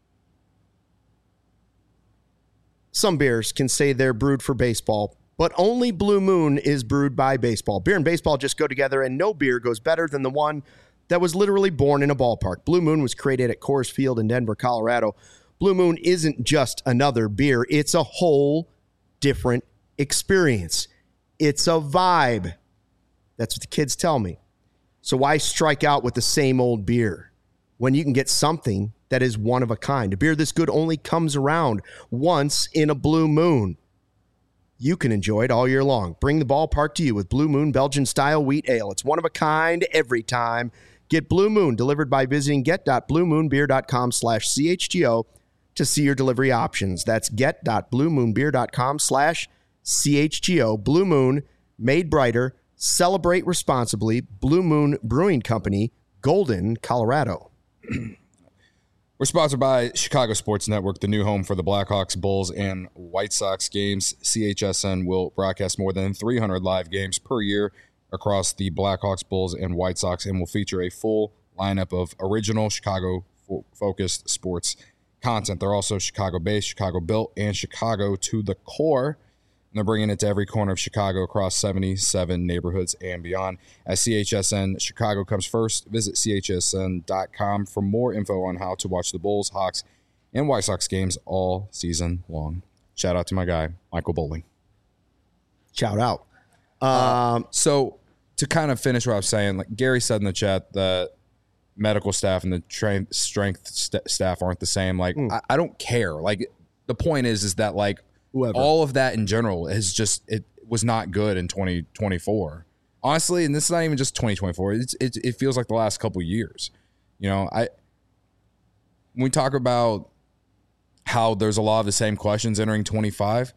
Speaker 1: Some beers can say they're brewed for baseball, but only Blue Moon is brewed by baseball. Beer and baseball just go together, and no beer goes better than the one that was literally born in a ballpark. Blue Moon was created at Coors Field in Denver, Colorado. Blue Moon isn't just another beer. It's a whole different experience. It's a vibe. That's what the kids tell me. So why strike out with the same old beer when you can get something that is one of a kind? A beer this good only comes around once in a blue moon. You can enjoy it all year long. Bring the ballpark to you with Blue Moon Belgian-style wheat ale. It's one of a kind every time. Get Blue Moon delivered by visiting get.bluemoonbeer.com slash CHGO to see your delivery options. That's get.bluemoonbeer.com slash CHGO. Blue Moon, made brighter. Celebrate responsibly. Blue Moon Brewing Company, Golden, Colorado.
Speaker 4: We're sponsored by Chicago Sports Network, the new home for the Blackhawks, Bulls, and White Sox games. C H S N will broadcast more than three hundred live games per year across the Blackhawks, Bulls, and White Sox, and will feature a full lineup of original Chicago-focused sports content. They're also Chicago-based, Chicago-built, and Chicago to the core. And they're bringing it to every corner of Chicago across seventy-seven neighborhoods and beyond. As C H S N Chicago comes first, visit C H S N dot com for more info on how to watch the Bulls, Hawks, and White Sox games all season long. Shout out to my guy, Michael Bowling.
Speaker 1: Shout out. Um,
Speaker 4: uh, so to kind of finish what I was saying, like Gary said in the chat that medical staff and the tra- strength st- staff aren't the same. Like, mm. I, I don't care. Like, the point is, is that like, Whoever. all of that in general is just, it was not good in twenty twenty-four. Honestly, and this is not even just twenty twenty-four. It's, it, it feels like the last couple of years. You know, I when we talk about how there's a lot of the same questions entering twenty-five,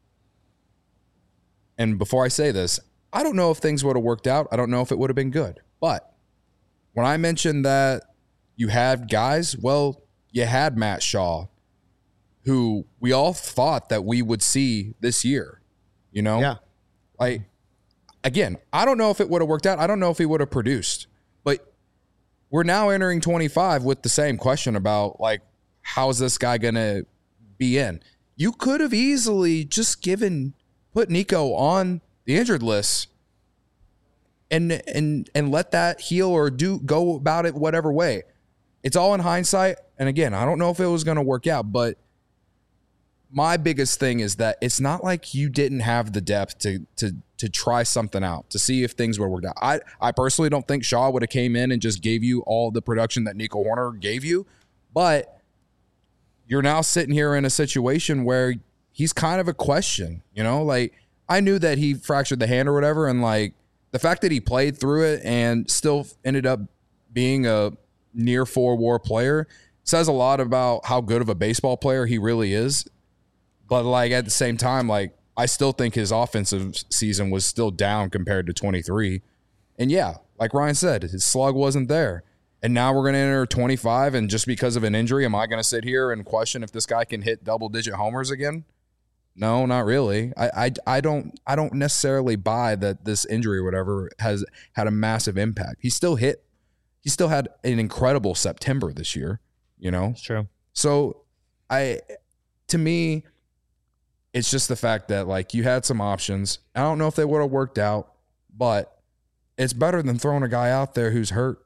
Speaker 4: and before I say this, I don't know if things would have worked out. I don't know if it would have been good. But when I mentioned that you had guys, well, you had Matt Shaw, who we all thought that we would see this year, you know?
Speaker 1: Yeah.
Speaker 4: Like, again, I don't know if it would have worked out. I don't know if he would have produced. But we're now entering twenty-five with the same question about, like, how's this guy going to be in? You could have easily just given, put Nico on the injured list and and and let that heal or do go about it whatever way. It's all in hindsight. And again, I don't know if it was going to work out, but my biggest thing is that it's not like you didn't have the depth to to to try something out, to see if things would have worked out. I, I personally don't think Shaw would have came in and just gave you all the production that Nico Horner gave you, but you're now sitting here in a situation where he's kind of a question, you know? Like, I knew that he fractured the hand or whatever, and like the fact that he played through it and still ended up being a near four-war player says a lot about how good of a baseball player he really is. But, like, at the same time, like, I still think his offensive season was still down compared to twenty-three. And, yeah, like Ryan said, his slug wasn't there. And now we're going to enter twenty-five, and just because of an injury, am I going to sit here and question if this guy can hit double-digit homers again? No, not really. I, I, I don't I don't necessarily buy that this injury or whatever has had a massive impact. He still hit. He still had an incredible September this year, you know?
Speaker 3: It's true.
Speaker 4: So I, to me, it's just the fact that, like, you had some options. I don't know if they would have worked out, but it's better than throwing a guy out there who's hurt.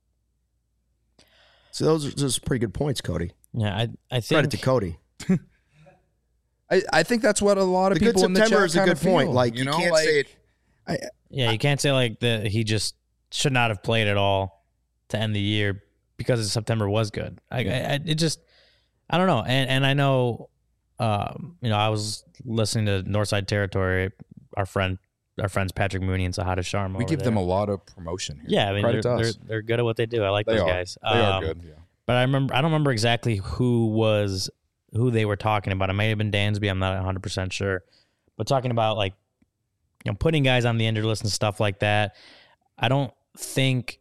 Speaker 1: So those are just pretty good points, Cody.
Speaker 3: Yeah, I I think
Speaker 1: Credit to Cody.
Speaker 4: I, I think that's what a lot of
Speaker 1: The good
Speaker 4: people in the
Speaker 1: September
Speaker 4: chat
Speaker 1: is a
Speaker 4: kinda
Speaker 1: good point.
Speaker 4: feel,
Speaker 1: Like,
Speaker 4: you
Speaker 1: you
Speaker 4: know,
Speaker 1: can't
Speaker 4: like,
Speaker 1: say it. I,
Speaker 3: Yeah, you can't say like that he just should not have played at all to end the year because September was good. I, I it just I don't know, and and I know, um, you know, I was listening to Northside Territory, our friend, our friends Patrick Mooney and Sahada Sharma.
Speaker 4: we give them a lot of promotion here.
Speaker 3: yeah, I mean
Speaker 4: Credit
Speaker 3: they're,
Speaker 4: to
Speaker 3: they're
Speaker 4: us.
Speaker 3: they're good at what they do. I like
Speaker 4: They
Speaker 3: those
Speaker 4: are.
Speaker 3: guys.
Speaker 4: They are
Speaker 3: Um,
Speaker 4: good. Yeah.
Speaker 3: But I remember I don't remember exactly who was who they were talking about. It may have been Dansby. I'm not one hundred percent sure. But talking about, like, you know, putting guys on the injured list and stuff like that, I don't think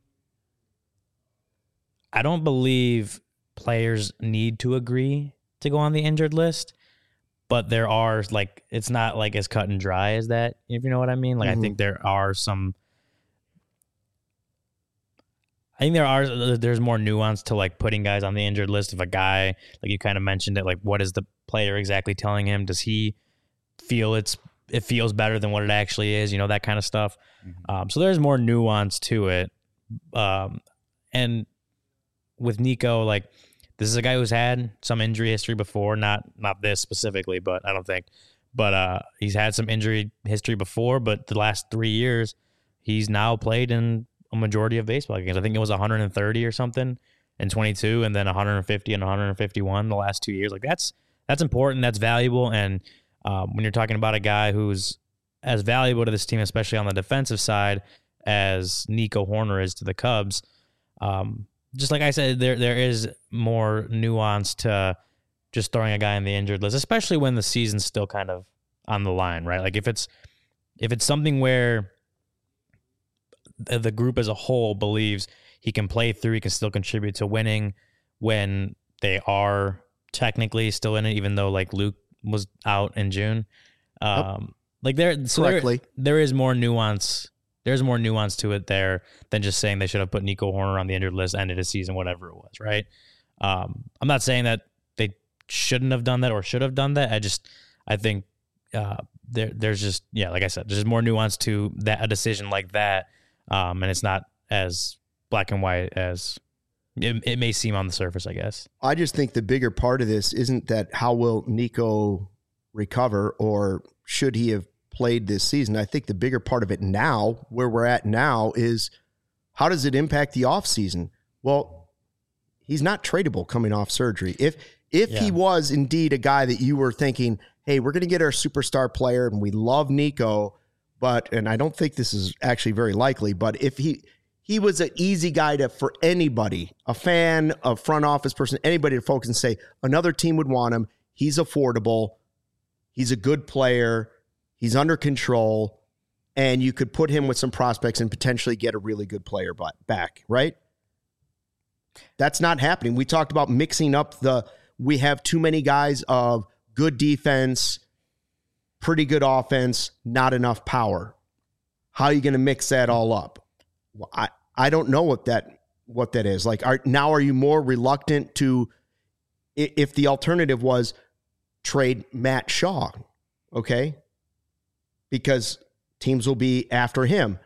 Speaker 3: I don't believe players need to agree to go on the injured list. But there are, like, it's not like as cut and dry as that, if you know what I mean. Like,
Speaker 1: Mhm.
Speaker 3: I think there are some I think there are there's more nuance to, like, putting guys on the injured list. If a guy, like you kind of mentioned it, like, what is the player exactly telling him? Does he feel it's it feels better than what it actually is? You know, that kind of stuff.
Speaker 4: Mhm.
Speaker 3: Um, so there's more nuance to it. Um, and with Nico, like, this is a guy who's had some injury history before. Not not this specifically, but I don't think. But uh, he's had some injury history before. But the last three years, he's now played in a majority of baseball games. I think it was one hundred thirty or something in twenty-two, and then one hundred fifty and one hundred fifty-one the last two years. Like, that's that's important. That's valuable. And um, when you're talking about a guy who's as valuable to this team, especially on the defensive side, as Nico Horner is to the Cubs, um, just like I said, there there is more nuance to just throwing a guy on the injured list, especially when the season's still kind of on the line, right? Like, if it's if it's something where the group as a whole believes he can play through, he can still contribute to winning when they are technically still in it, even though, like, Luke was out in June. Um, like there, so
Speaker 1: Correctly.
Speaker 3: there, there is more nuance. There's more nuance to it there than just saying they should have put Nico Horner on the injured list, ended his season, whatever it was, right? Um, I'm not saying that they shouldn't have done that or should have done that. I just, I think uh, there, there's just, yeah, like I said, there's more nuance to that a decision like that. Um, and it's not as black and white as it, it may seem on the surface, I guess.
Speaker 1: I just think the bigger part of this isn't that how will Nico recover or should he have played this season. I think the bigger part of it now, where we're at now, is how does it impact the offseason? Well, he's not tradable coming off surgery. If if
Speaker 3: Yeah.
Speaker 1: he was indeed a guy that you were thinking, hey, we're going to get our superstar player and we love Nico, but, and I don't think this is actually very likely, but if he he was an easy guy to, for anybody, a fan, a front office person, anybody to focus and say another team would want him. He's affordable. He's a good player. He's under control. And you could put him with some prospects and potentially get a really good player back, right? That's not happening. We talked about mixing up the, we have too many guys of good defense, pretty good offense, not enough power. How are you going to mix that all up? Well, I, I don't know what that what that is. Like, are, now are you more reluctant to, if the alternative was trade Matt Shaw, okay? Because teams will be after him.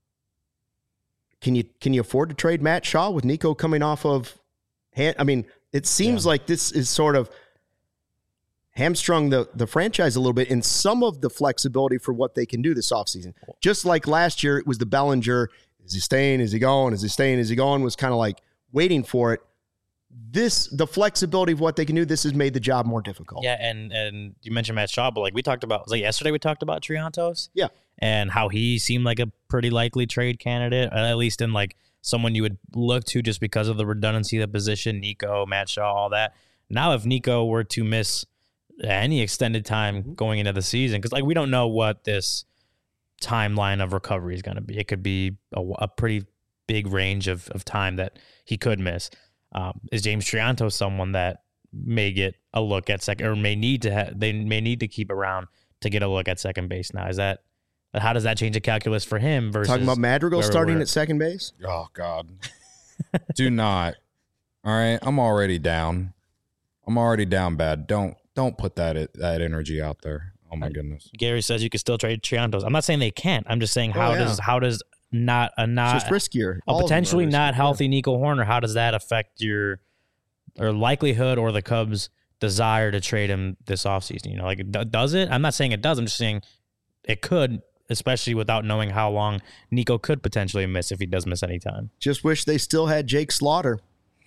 Speaker 1: Can you can you afford to trade Matt Shaw with Nico coming off of hand? I mean, it seems
Speaker 3: Yeah.
Speaker 1: like this is sort of hamstrung the, the franchise a little bit in some of the flexibility for what they can do this offseason. Just like last year, it was the Bellinger, is he staying, is he going, is he staying, is he going, was kind of like waiting for it. This, the flexibility of what they can do, this has made the job more difficult.
Speaker 3: Yeah, and and you mentioned Matt Shaw, but like we talked about, was like yesterday we talked about Triantos.
Speaker 1: Yeah.
Speaker 3: And how he seemed like a pretty likely trade candidate, at least in like someone you would look to just because of the redundancy of the position, Nico, Matt Shaw, all that. Now, if Nico were to miss any extended time going into the season, because like we don't know what this timeline of recovery is going to be. It could be a, a pretty big range of, of time that he could miss. Um, is James Trianto someone that may get a look at second, or may need to have, they may need to keep around to get a look at second base now? Is that, how does that change the calculus for him versus
Speaker 1: talking about Madrigal starting
Speaker 3: we're,
Speaker 1: at second base?
Speaker 4: Oh God, do not. All right, I'm already down. I'm already down bad. Don't don't put that that energy out there. Oh my goodness.
Speaker 3: Gary says you can still trade Triantos. I'm not saying they can't. I'm just saying how
Speaker 1: oh, yeah.
Speaker 3: does how does not a not
Speaker 1: it's just riskier.
Speaker 3: a potentially not healthy Nico Horner, how does that affect your or likelihood or the Cubs' desire to trade him this offseason? You know, like does it? I'm not saying it does. I'm just saying it could, especially without knowing how long Nico could potentially miss if he does miss any time.
Speaker 1: Just wish they still had Jake Slaughter.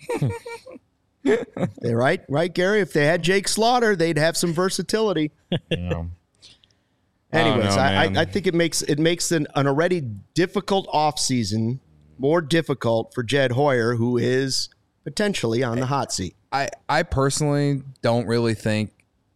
Speaker 1: They, right, right, Gary. If they had Jake Slaughter, they'd have some versatility.
Speaker 4: Yeah.
Speaker 1: Anyways,
Speaker 4: know,
Speaker 1: I, I, I think it makes it makes an, an already difficult offseason more difficult for Jed Hoyer, who is potentially on the hot seat.
Speaker 4: I, I personally don't really think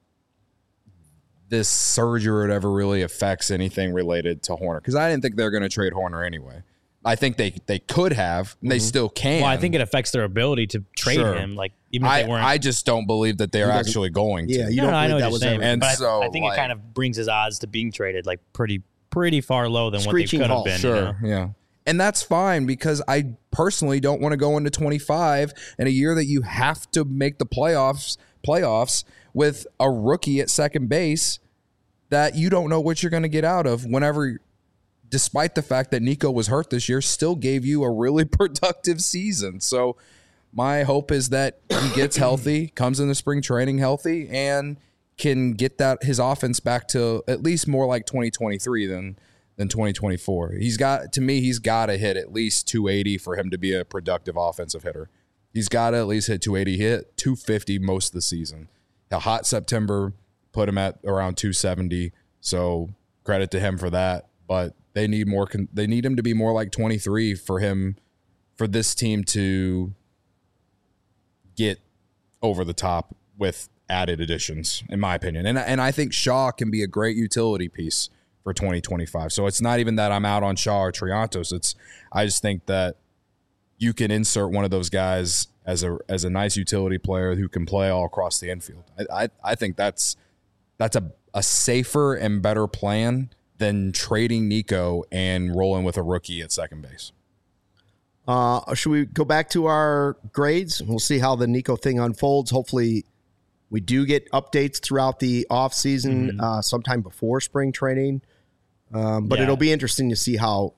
Speaker 4: this surgery or whatever really affects anything related to Horner, because I didn't think they're going to trade Horner anyway. I think they, they could have, and they mm-hmm. still can.
Speaker 3: Well, I think it affects their ability to trade sure. him. Like even if
Speaker 4: I,
Speaker 3: they weren't,
Speaker 4: I just don't believe that they're actually going to.
Speaker 1: Yeah, you
Speaker 3: no,
Speaker 1: don't
Speaker 3: no, I know
Speaker 1: believe
Speaker 3: what
Speaker 1: that
Speaker 3: you're
Speaker 1: was
Speaker 3: saying,
Speaker 1: ever.
Speaker 4: And
Speaker 3: but
Speaker 4: so
Speaker 3: I, I think
Speaker 4: like,
Speaker 3: it kind of brings his odds to being traded like pretty pretty far low than what they
Speaker 1: Screeching
Speaker 3: could have
Speaker 1: halt.
Speaker 3: been.
Speaker 4: Sure,
Speaker 3: you know?
Speaker 4: yeah. And that's fine, because I personally don't want to go into twenty-five in a year that you have to make the playoffs playoffs with a rookie at second base that you don't know what you're going to get out of whenever, despite the fact that Nico was hurt this year, still gave you a really productive season. So my hope is that he gets healthy, comes into spring training healthy, and can get that his offense back to at least more like twenty twenty-three than than twenty twenty-four. He's got, to me, he's got to hit at least two eighty for him to be a productive offensive hitter. He's got to at least hit two eighty. He hit two fifty most of the season. A hot September put him at around two seventy. So credit to him for that. But they need more. They need him to be more like twenty-three for him, for this team to get over the top with added additions, in my opinion. And and I think Shaw can be a great utility piece for twenty twenty-five. So it's not even that I'm out on Shaw or Triantos. It's I just think that you can insert one of those guys as a as a nice utility player who can play all across the infield. I I, I think that's that's a, a safer and better plan than trading Nico and rolling with a rookie at second base.
Speaker 1: Uh, should we go back to our grades? We'll see how the Nico thing unfolds. Hopefully we do get updates throughout the offseason, mm-hmm. uh, sometime before spring training. Um, but yeah. It'll be interesting to see how,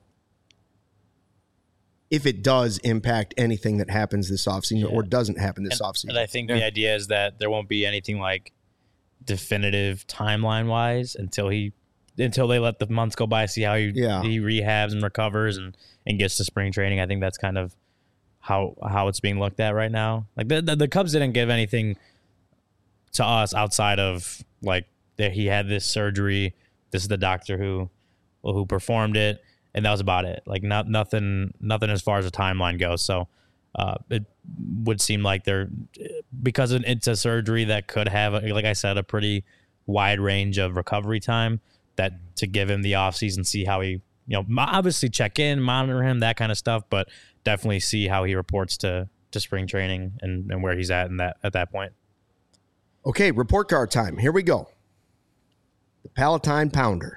Speaker 1: if it does impact anything that happens this offseason yeah. or doesn't happen this
Speaker 3: and,
Speaker 1: offseason.
Speaker 3: And I think
Speaker 1: yeah.
Speaker 3: the idea is that there won't be anything like definitive timeline wise until he until they let the months go by, see how he
Speaker 1: yeah.
Speaker 3: he rehabs and recovers and, and gets to spring training. I think that's kind of how how it's being looked at right now. Like the the, the Cubs didn't give anything to us outside of like that he had this surgery. This is the doctor who who performed it, and that was about it. Like not nothing nothing as far as the timeline goes. So uh, it would seem like they're, because it's a surgery that could have, like I said, a pretty wide range of recovery time, that to give him the offseason, see how he, you know, obviously check in, monitor him, that kind of stuff, but definitely see how he reports to, to spring training and, and where he's at in that, at that point.
Speaker 1: Okay. Report card time. Here we go. The Palatine Pounder.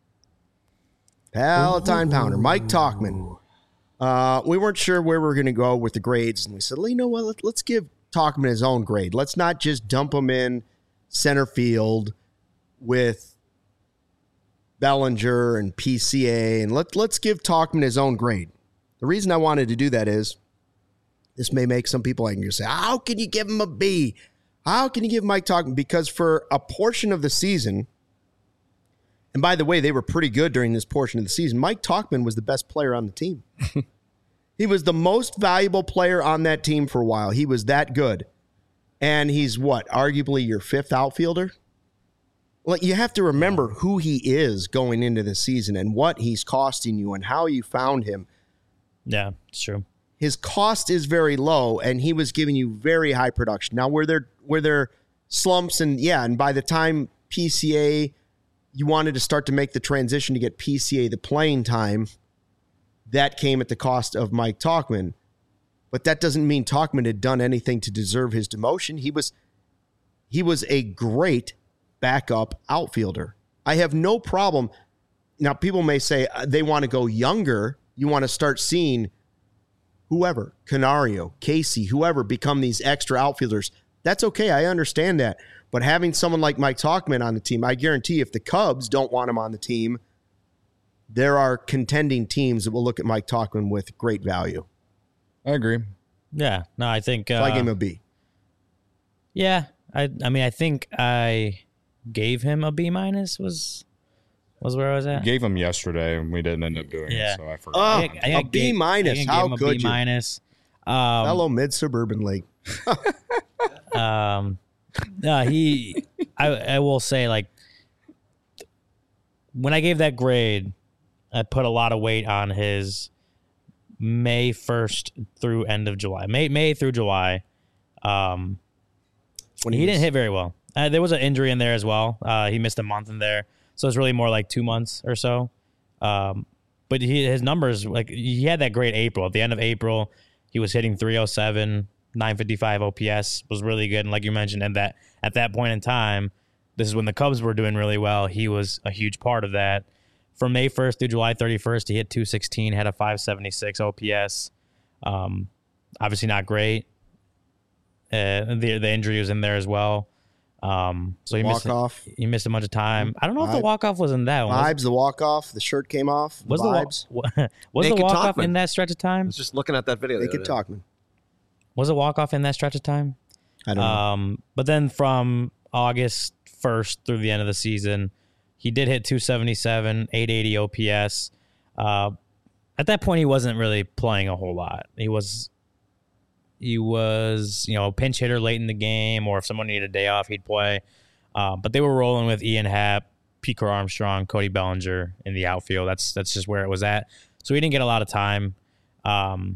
Speaker 1: Palatine Ooh. Pounder. Mike Tauchman. Uh, we weren't sure where we were going to go with the grades, and we said, well, you know what, Let, let's give Tauchman his own grade. Let's not just dump him in center field with Bellinger and P C A, and let, let's give Tauchman his own grade. The reason I wanted to do that is this may make some people angry. Say, how can you give him a B? How can you give Mike Tauchman? Because for a portion of the season, and by the way, they were pretty good during this portion of the season, Mike Tauchman was the best player on the team. He was the most valuable player on that team for a while. He was that good. And he's what? Arguably your fifth outfielder? Well, you have to remember who he is going into the season and what he's costing you and how you found him.
Speaker 3: Yeah, it's true.
Speaker 1: His cost is very low, and he was giving you very high production. Now, were there were there slumps? And yeah, and by the time P C A, you wanted to start to make the transition to get P C A the playing time, that came at the cost of Mike Tauchman. But that doesn't mean Tauchman had done anything to deserve his demotion. He was he was a great backup outfielder. I have no problem. Now, people may say they want to go younger. You want to start seeing whoever, Canario, Casey, whoever, become these extra outfielders. That's okay. I understand that. But having someone like Mike Tauchman on the team, I guarantee if the Cubs don't want him on the team, there are contending teams that will look at Mike Tauchman with great value.
Speaker 4: I agree.
Speaker 3: Yeah. No, I think.
Speaker 1: So
Speaker 3: uh,
Speaker 1: I gave him a B.
Speaker 3: Yeah. I I mean, I think I gave him a B minus was was where I was
Speaker 4: We
Speaker 3: at.
Speaker 4: gave him yesterday, and we didn't end up doing
Speaker 3: Yeah.
Speaker 4: it, so I forgot.
Speaker 1: Oh,
Speaker 3: I think- I think I
Speaker 1: a B
Speaker 3: gave-
Speaker 1: minus.
Speaker 3: I think I
Speaker 1: How
Speaker 3: gave him a
Speaker 1: could
Speaker 3: B
Speaker 1: you?
Speaker 3: minus. Um,
Speaker 1: Fellow mid-suburban league.
Speaker 3: Um, no, he. I I will say, like, when I gave that grade, I put a lot of weight on his May first through end of July, May May through July. Um,
Speaker 1: When
Speaker 3: he,
Speaker 1: he
Speaker 3: didn't
Speaker 1: was-
Speaker 3: hit very well. Uh, there was an injury in there as well. Uh, he missed a month in there, so it's really more like two months or so. Um, but he, his numbers, like he had that great April. At the end of April, he was hitting three oh seven, nine fifty-five O P S, was really good. And like you mentioned, and that at that point in time, this is when the Cubs were doing really well. He was a huge part of that. From May first through July thirty-first, he hit two sixteen, had a five seventy-six O P S. Um, obviously not great. Uh, the the injury was in there as well. Um, so he missed
Speaker 1: Walk-off.
Speaker 3: he missed a bunch of time. I don't know if the
Speaker 1: Vibe.
Speaker 3: walk off was in that one. Was,
Speaker 1: Vibes, the walk-off, the shirt came off.
Speaker 3: was
Speaker 1: the
Speaker 3: the
Speaker 1: vibes.
Speaker 3: wa- was the
Speaker 2: Naked
Speaker 3: walk off
Speaker 2: Tauchman.
Speaker 3: in that stretch of
Speaker 2: I
Speaker 3: time?
Speaker 2: was just looking at that video.
Speaker 1: They
Speaker 2: the
Speaker 1: could
Speaker 2: other day.
Speaker 1: talk, man.
Speaker 3: Was a walk off in that stretch of time?
Speaker 1: I don't know.
Speaker 3: Um, but then from August first through the end of the season, he did hit two seventy-seven, eight eighty O P S. Uh, at that point, he wasn't really playing a whole lot. He was, he was, you know, a pinch hitter late in the game, or if someone needed a day off, he'd play. Uh, but they were rolling with Ian Happ, Pete Armstrong, Cody Bellinger in the outfield. That's that's just where it was at. So he didn't get a lot of time. Um,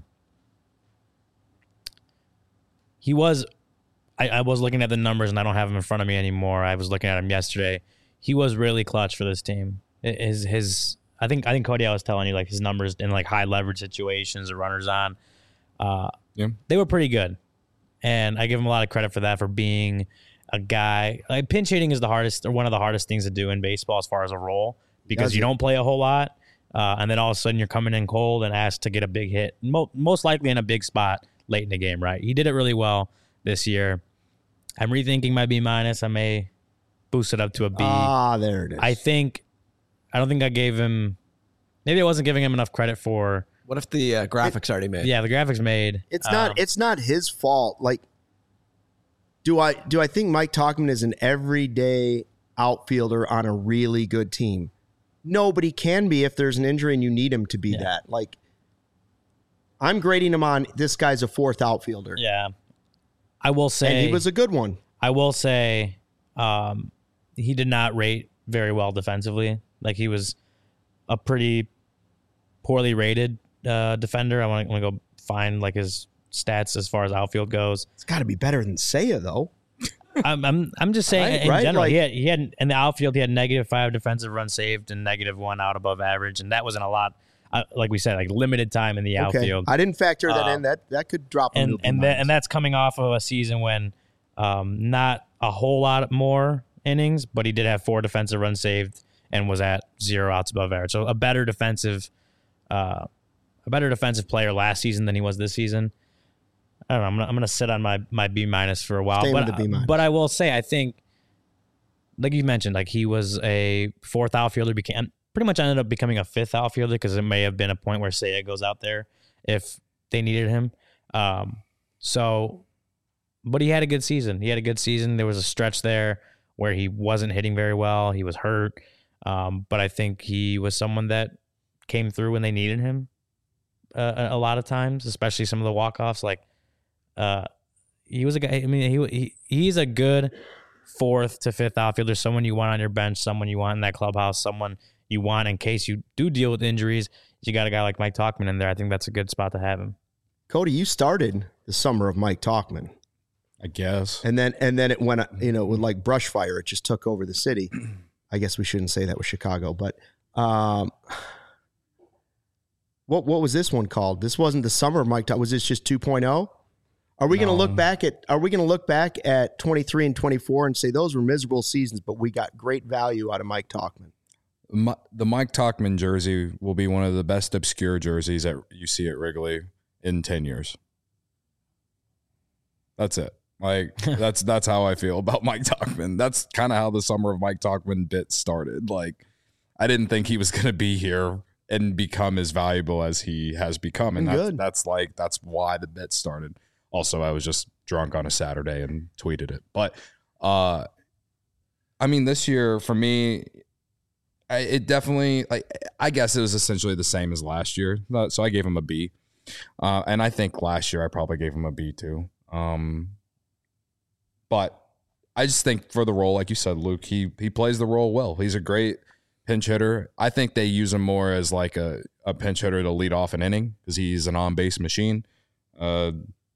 Speaker 3: he was. I, I was looking at the numbers, and I don't have them in front of me anymore. I was looking at them yesterday. He was really clutch for this team. His his I think I think Cody, I was telling you, like his numbers in like high leverage situations or runners on, uh,
Speaker 4: Yeah.
Speaker 3: they were pretty good, and I give him a lot of credit for that, for being a guy. Like pinch hitting is the hardest, or one of the hardest things to do in baseball as far as a role, because
Speaker 1: Does
Speaker 3: you
Speaker 1: it?
Speaker 3: don't play a whole lot, uh, and then all of a sudden you're coming in cold and asked to get a big hit, Mo- most likely in a big spot late in the game. Right? He did it really well this year. I'm rethinking my B minus. I may boost it up to a B.
Speaker 1: Ah, there it is.
Speaker 3: I think, I don't think I gave him, maybe I wasn't giving him enough credit for,
Speaker 2: What if the uh, graphics already made?
Speaker 3: yeah, the graphics made.
Speaker 1: It's
Speaker 3: Um,
Speaker 1: not. It's not his fault. Like, do I do I think Mike Tauchman is an everyday outfielder on a really good team? Nobody can be if there's an injury and you need him to be
Speaker 3: Yeah.
Speaker 1: that. Like, I'm grading him on this guy's a fourth outfielder,
Speaker 3: Yeah. I will say,
Speaker 1: and he was a good one.
Speaker 3: I will say, um, he did not rate very well defensively. Like he was a pretty poorly rated uh, defender. I want to go find like his stats as far as outfield goes.
Speaker 1: It's got to be better than Seiya, though.
Speaker 3: I'm I'm I'm just saying
Speaker 1: Right,
Speaker 3: in
Speaker 1: right,
Speaker 3: general,
Speaker 1: like-
Speaker 3: he had he had in the outfield he had negative five defensive runs saved and negative one out above average, and that wasn't a lot. Uh, like we said, like limited time in the
Speaker 1: Okay,
Speaker 3: outfield.
Speaker 1: I didn't factor that
Speaker 3: Uh,
Speaker 1: in. That that could drop him
Speaker 3: and
Speaker 1: to a B
Speaker 3: and that
Speaker 1: minus.
Speaker 3: and that's coming off of a season when um, not a whole lot more innings, but he did have four defensive runs saved and was at zero outs above average. So a better defensive, uh, a better defensive player last season than he was this season. I don't know. I'm gonna, I'm gonna sit on my my B minus for a while,
Speaker 1: Stay
Speaker 3: but
Speaker 1: with the B minus.
Speaker 3: but I will say I think, like you mentioned, like he was a fourth outfielder, became pretty much ended up becoming a fifth outfielder because it may have been a point where Seiya goes out there if they needed him. Um, so, but he had a good season. He had a good season. There was a stretch there where he wasn't hitting very well. He was hurt. Um, but I think he was someone that came through when they needed him uh, a, a lot of times, especially some of the walk-offs. Like, uh, he was a guy, I mean, he, he he's a good fourth to fifth outfielder, someone you want on your bench, someone you want in that clubhouse, someone you want in case you do deal with injuries. You got a guy like Mike Tauchman in there. I think that's a good spot to have him.
Speaker 1: Cody, you started the summer of Mike Tauchman.
Speaker 4: I guess.
Speaker 1: And then and then it went, you know, with like brush fire, it just took over the city. I guess we shouldn't say that with Chicago, but um, What what was this one called? This wasn't the summer of Mike Talkman. Was this just two point oh? Are we going to
Speaker 3: No.
Speaker 1: look back at Are we going to look back at twenty-three and twenty-four and say those were miserable seasons, but we got great value out of Mike Talkman?
Speaker 4: My, the Mike Talkman jersey will be one of the best obscure jerseys that you see at Wrigley in ten years. That's it. Like that's that's how I feel about Mike Talkman. That's kind of how the summer of Mike Talkman bit started. Like I didn't think he was going to be here and become as valuable as he has become, and that's,
Speaker 1: Good.
Speaker 4: that's like that's why the bit started. Also, I was just drunk on a Saturday and tweeted it. But uh, I mean, this year for me, I, it definitely like I guess it was essentially the same as last year. So I gave him a B, uh, and I think last year I probably gave him a B too. Um, but I just think for the role, like you said, Luke, he he plays the role well. He's a great pinch hitter. I think they use him more as like a, a pinch hitter to lead off an inning because he's an on-base machine. Uh,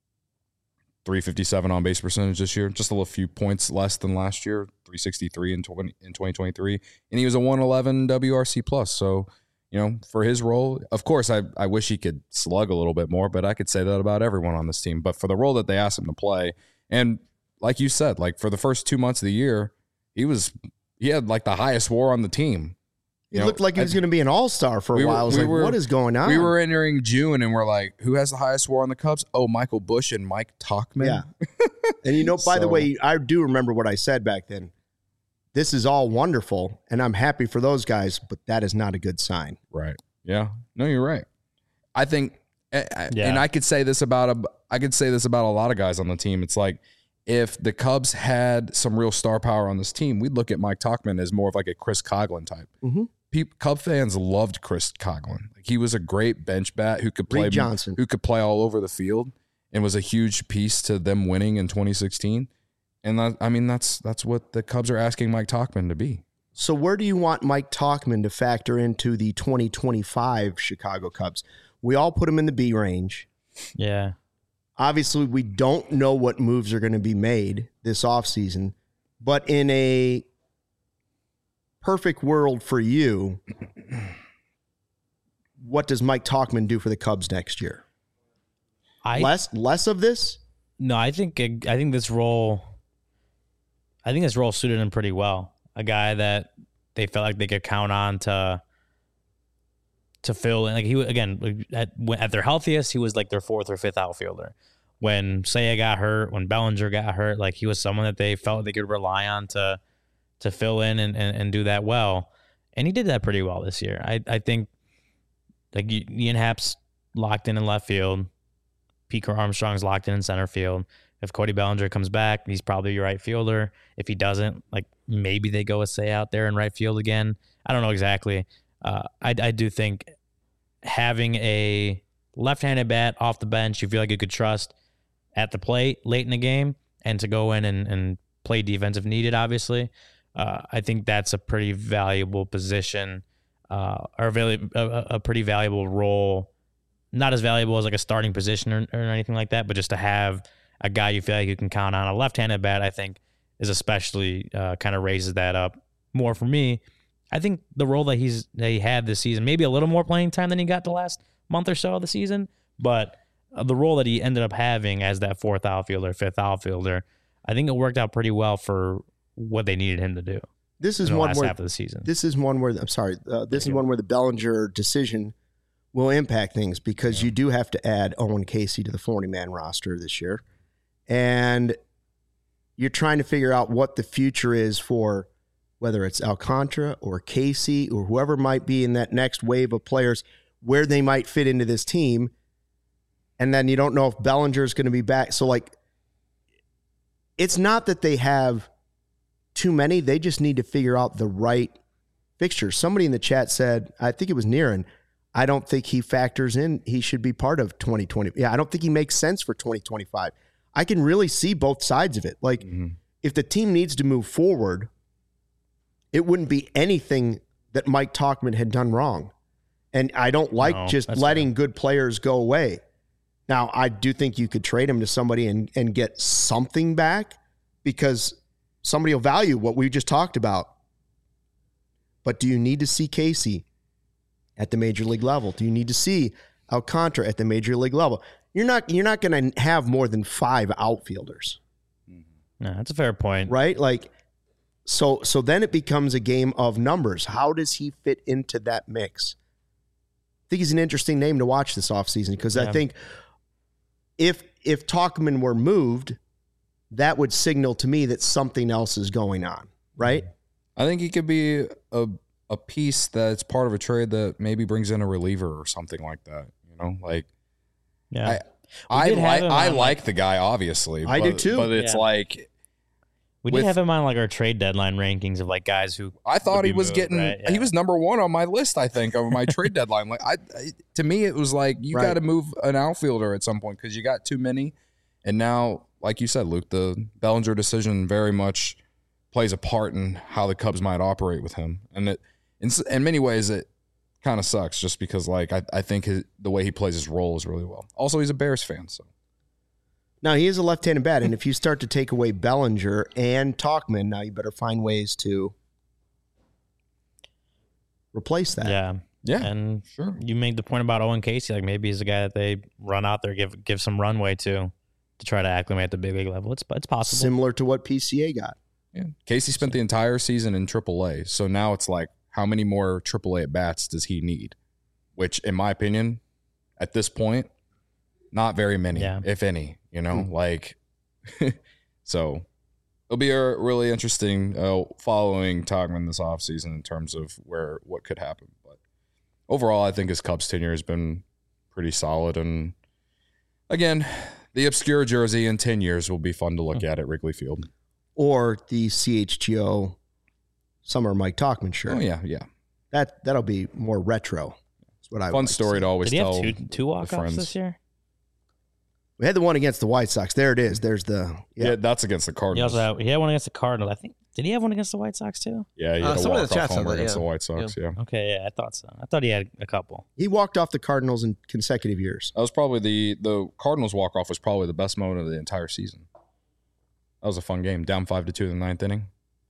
Speaker 4: three fifty-seven on-base percentage this year, just a little few points less than last year, three sixty-three in, twenty, in twenty twenty-three. And he was a one eleven W R C plus. So, you know, for his role, of course, I, I wish he could slug a little bit more, but I could say that about everyone on this team. But for the role that they asked him to play, and like you said, like for the first two months of the year, he was he had like the highest WAR on the team.
Speaker 1: He
Speaker 4: You know,
Speaker 1: looked like he was going to be an all-star for a
Speaker 4: we were-
Speaker 1: while. I was
Speaker 4: we
Speaker 1: like,
Speaker 4: were-
Speaker 1: what is going on?
Speaker 4: We were entering June and we're like, who has the highest WAR on the Cubs? Oh, Michael Busch and Mike Talkman.
Speaker 1: Yeah. And you know, by the
Speaker 4: So-
Speaker 1: way, I do remember what I said back then. This is all wonderful, and I'm happy for those guys, but that is not a good sign.
Speaker 4: Right. Yeah. No, you're right. I think, I- I-
Speaker 3: Yeah.
Speaker 4: and I could say this about a, I could say this about a lot of guys on the team. It's like if the Cubs had some real star power on this team, we'd look at Mike Talkman as more of like a Chris Coughlin type.
Speaker 1: Mm-hmm.
Speaker 4: People, Cub fans loved Chris Coughlin. Like he was a great bench bat who could play
Speaker 1: Reed Johnson.
Speaker 4: who could play all over the field, and was a huge piece to them winning in twenty sixteen. And that, I mean, that's that's what the Cubs are asking Mike Talkman to be.
Speaker 1: So where do you want Mike Talkman to factor into the twenty twenty-five Chicago Cubs? We all put him in the B range.
Speaker 3: Yeah.
Speaker 1: Obviously, we don't know what moves are going to be made this offseason, but in a perfect world for you, what does Mike Talkman do for the Cubs next year?
Speaker 3: I
Speaker 1: less less of this?
Speaker 3: No, I think I think this role, I think this role suited him pretty well. A guy that they felt like they could count on to to fill in. Like he again at at their healthiest, he was like their fourth or fifth outfielder. When Seiya got hurt, when Bellinger got hurt, like he was someone that they felt they could rely on to to fill in and, and, and do that well. And he did that pretty well this year. I I think like Ian Happ's locked in in left field. Pete Armstrong's locked in in center field. If Cody Bellinger comes back, he's probably your right fielder. If he doesn't, like maybe they go with Say out there in right field again. I don't know exactly. Uh, I, I do think having a left-handed bat off the bench, you feel like you could trust at the plate late in the game and to go in and, and play defense if needed, obviously. Uh, I think that's a pretty valuable position uh, or a, a, a pretty valuable role. Not as valuable as like a starting position or, or anything like that, but just to have a guy you feel like you can count on. A left-handed bat, I think, is especially uh, kind of raises that up more for me. I think the role that he's that he had this season, maybe a little more playing time than he got the last month or so of the season, but uh, the role that he ended up having as that fourth outfielder, fifth outfielder, I think it worked out pretty well for what they needed him to do.
Speaker 1: This is
Speaker 3: in the
Speaker 1: one
Speaker 3: last
Speaker 1: where
Speaker 3: half of the season.
Speaker 1: This is one where I'm sorry. Uh, this is one where the Bellinger decision will impact things because yeah. you do have to add Owen Casey to the forty-man roster this year. And you're trying to figure out what the future is for whether it's Alcantara or Casey or whoever might be in that next wave of players, where they might fit into this team. And then you don't know if Bellinger is going to be back. So, like, it's not that they have too many. They just need to figure out the right fixture. Somebody in the chat said, I think it was Niren, I don't think he factors in. He should be part of twenty twenty. Yeah, I don't think he makes sense for twenty twenty-five. I can really see both sides of it. Like, mm-hmm. if the team needs to move forward, it wouldn't be anything that Mike Talkman had done wrong. And I don't like no, just letting fair. good players go away. Now, I do think you could trade him to somebody and, and get something back because somebody will value what we just talked about. But do you need to see Casey at the major league level? Do you need to see Alcantara at the major league level? You're not you're not going to have more than five outfielders.
Speaker 3: No, that's a fair point.
Speaker 1: Right? Like, so so then it becomes a game of numbers. How does he fit into that mix? I think he's an interesting name to watch this offseason because yeah. I think if if Tauchman were moved, that would signal to me that something else is going on, right?
Speaker 4: I think he could be a a piece that's part of a trade that maybe brings in a reliever or something like that. You know, like
Speaker 3: yeah,
Speaker 4: I I, li- I like like the guy, obviously.
Speaker 1: I
Speaker 4: but,
Speaker 1: do too.
Speaker 4: But it's
Speaker 3: yeah.
Speaker 4: like
Speaker 3: we
Speaker 4: with,
Speaker 3: did have him on like our trade deadline rankings of like guys who
Speaker 4: I thought he was
Speaker 3: moved,
Speaker 4: getting.
Speaker 3: right? yeah.
Speaker 4: He was number one on my list. I think of my trade deadline. Like I, I, to me, it was like you
Speaker 1: right.
Speaker 4: got to move an outfielder at some point because you got too many, and now, like you said, Luke, the Bellinger decision very much plays a part in how the Cubs might operate with him. And it, in, in many ways, it kind of sucks just because, like, I, I think his, the way he plays his role is really well. Also, he's a Bears fan, so.
Speaker 1: Now, he is a left-handed bat, and if you start to take away Bellinger and Tauchman, now you better find ways to replace that.
Speaker 3: Yeah.
Speaker 4: Yeah,
Speaker 3: and
Speaker 4: sure.
Speaker 3: You made the point about Owen Casey. Like, maybe he's a guy that they run out there, give give some runway to, to try to acclimate at the big league level. It's, it's possible.
Speaker 1: Similar to what P C A got.
Speaker 4: Yeah, Casey spent the entire season in triple A, so now it's like, how many more triple A at bats does he need? Which, in my opinion, at this point, not very many,
Speaker 3: yeah.
Speaker 4: if any. You know,
Speaker 1: mm.
Speaker 4: like, so it'll be a really interesting uh, following Tauchman this offseason in terms of where what could happen. But overall, I think his Cubs tenure has been pretty solid, and again, the obscure jersey in ten years will be fun to look mm. at at Wrigley Field.
Speaker 1: Or the C H G O Summer Mike Tauchman shirt.
Speaker 4: Oh, yeah, yeah.
Speaker 1: That, that'll be more retro. That's what I
Speaker 4: Fun
Speaker 1: like
Speaker 4: story
Speaker 1: to,
Speaker 4: to always
Speaker 3: Did he
Speaker 4: tell
Speaker 3: have two, two walk-offs this year?
Speaker 1: We had the one against the White Sox. There it is. There's the...
Speaker 4: Yeah, yeah that's against the
Speaker 3: He
Speaker 4: Cardinals.
Speaker 3: also had, he had one against the Cardinals. I think. Did he have one against the White Sox, too?
Speaker 4: Yeah, he
Speaker 2: Uh,
Speaker 4: had a
Speaker 2: someone in the
Speaker 4: walk-off
Speaker 2: chat said
Speaker 4: homer
Speaker 2: that,
Speaker 4: against
Speaker 2: yeah.
Speaker 4: the White Sox, yeah.
Speaker 3: yeah. Okay, yeah, I thought so. I thought he had a couple.
Speaker 1: He walked off the Cardinals in consecutive years.
Speaker 4: That was probably the... The Cardinals walk-off was probably the best moment of the entire season. That was a fun game. Down five to two in the ninth inning.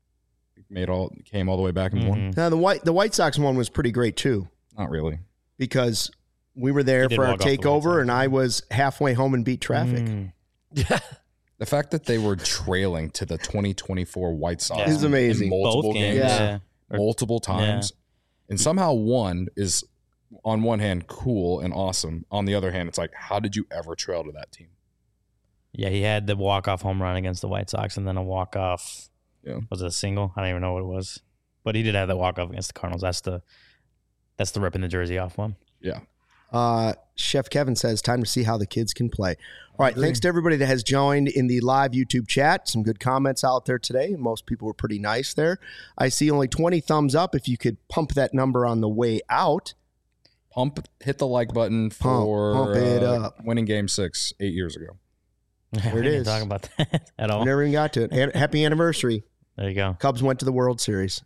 Speaker 4: Made all came all the way back and
Speaker 3: Mm-hmm.
Speaker 4: won.
Speaker 1: Now, the White the White Sox one was pretty great, too.
Speaker 4: Not really.
Speaker 1: Because we were there
Speaker 3: He did
Speaker 1: for our
Speaker 3: walk off the White
Speaker 1: takeover,
Speaker 3: Sox,
Speaker 1: and I was halfway home and beat traffic.
Speaker 3: Mm.
Speaker 2: Yeah.
Speaker 4: The fact that they were trailing to the twenty twenty-four White Sox
Speaker 3: Yeah.
Speaker 1: Is amazing.
Speaker 4: in multiple
Speaker 3: Both games.
Speaker 4: games,
Speaker 3: Yeah. Or-
Speaker 4: multiple times, and somehow one is, on one hand, cool and awesome. On the other hand, it's like, how did you ever trail to that team?
Speaker 3: Yeah, he had the walk-off home run against the White Sox and then a walk-off.
Speaker 4: Yeah.
Speaker 3: Was it a single? I don't even know what it was. But he did have that walk-off against the Cardinals. That's the that's the ripping the jersey off one.
Speaker 4: Yeah.
Speaker 1: Uh, Chef Kevin says, time to see how the kids can play. All right, thanks to everybody that has joined in the live YouTube chat. Some good comments out there today. Most people were pretty nice there. I see only twenty thumbs up. If you could pump that number on the way out.
Speaker 4: Pump, hit the like button
Speaker 1: Pump,
Speaker 4: for
Speaker 1: pump it
Speaker 4: uh,
Speaker 1: up.
Speaker 4: winning game six eight years ago.
Speaker 3: There
Speaker 1: it
Speaker 3: we didn't
Speaker 1: is.
Speaker 3: talk about that at all.
Speaker 1: We never even got to it. An- Happy anniversary.
Speaker 3: There you go.
Speaker 1: Cubs went to the World Series.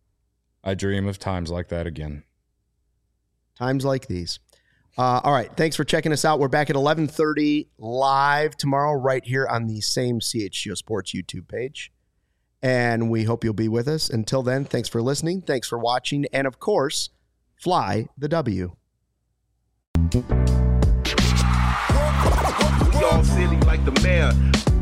Speaker 4: I dream of times like that again.
Speaker 1: Times like these. Uh, all right. Thanks for checking us out. We're back at eleven thirty live tomorrow right here on the same C H G O Sports YouTube page. And we hope you'll be with us. Until then, thanks for listening. Thanks for watching. And, of course, fly the W.
Speaker 5: We all silly like the mayor.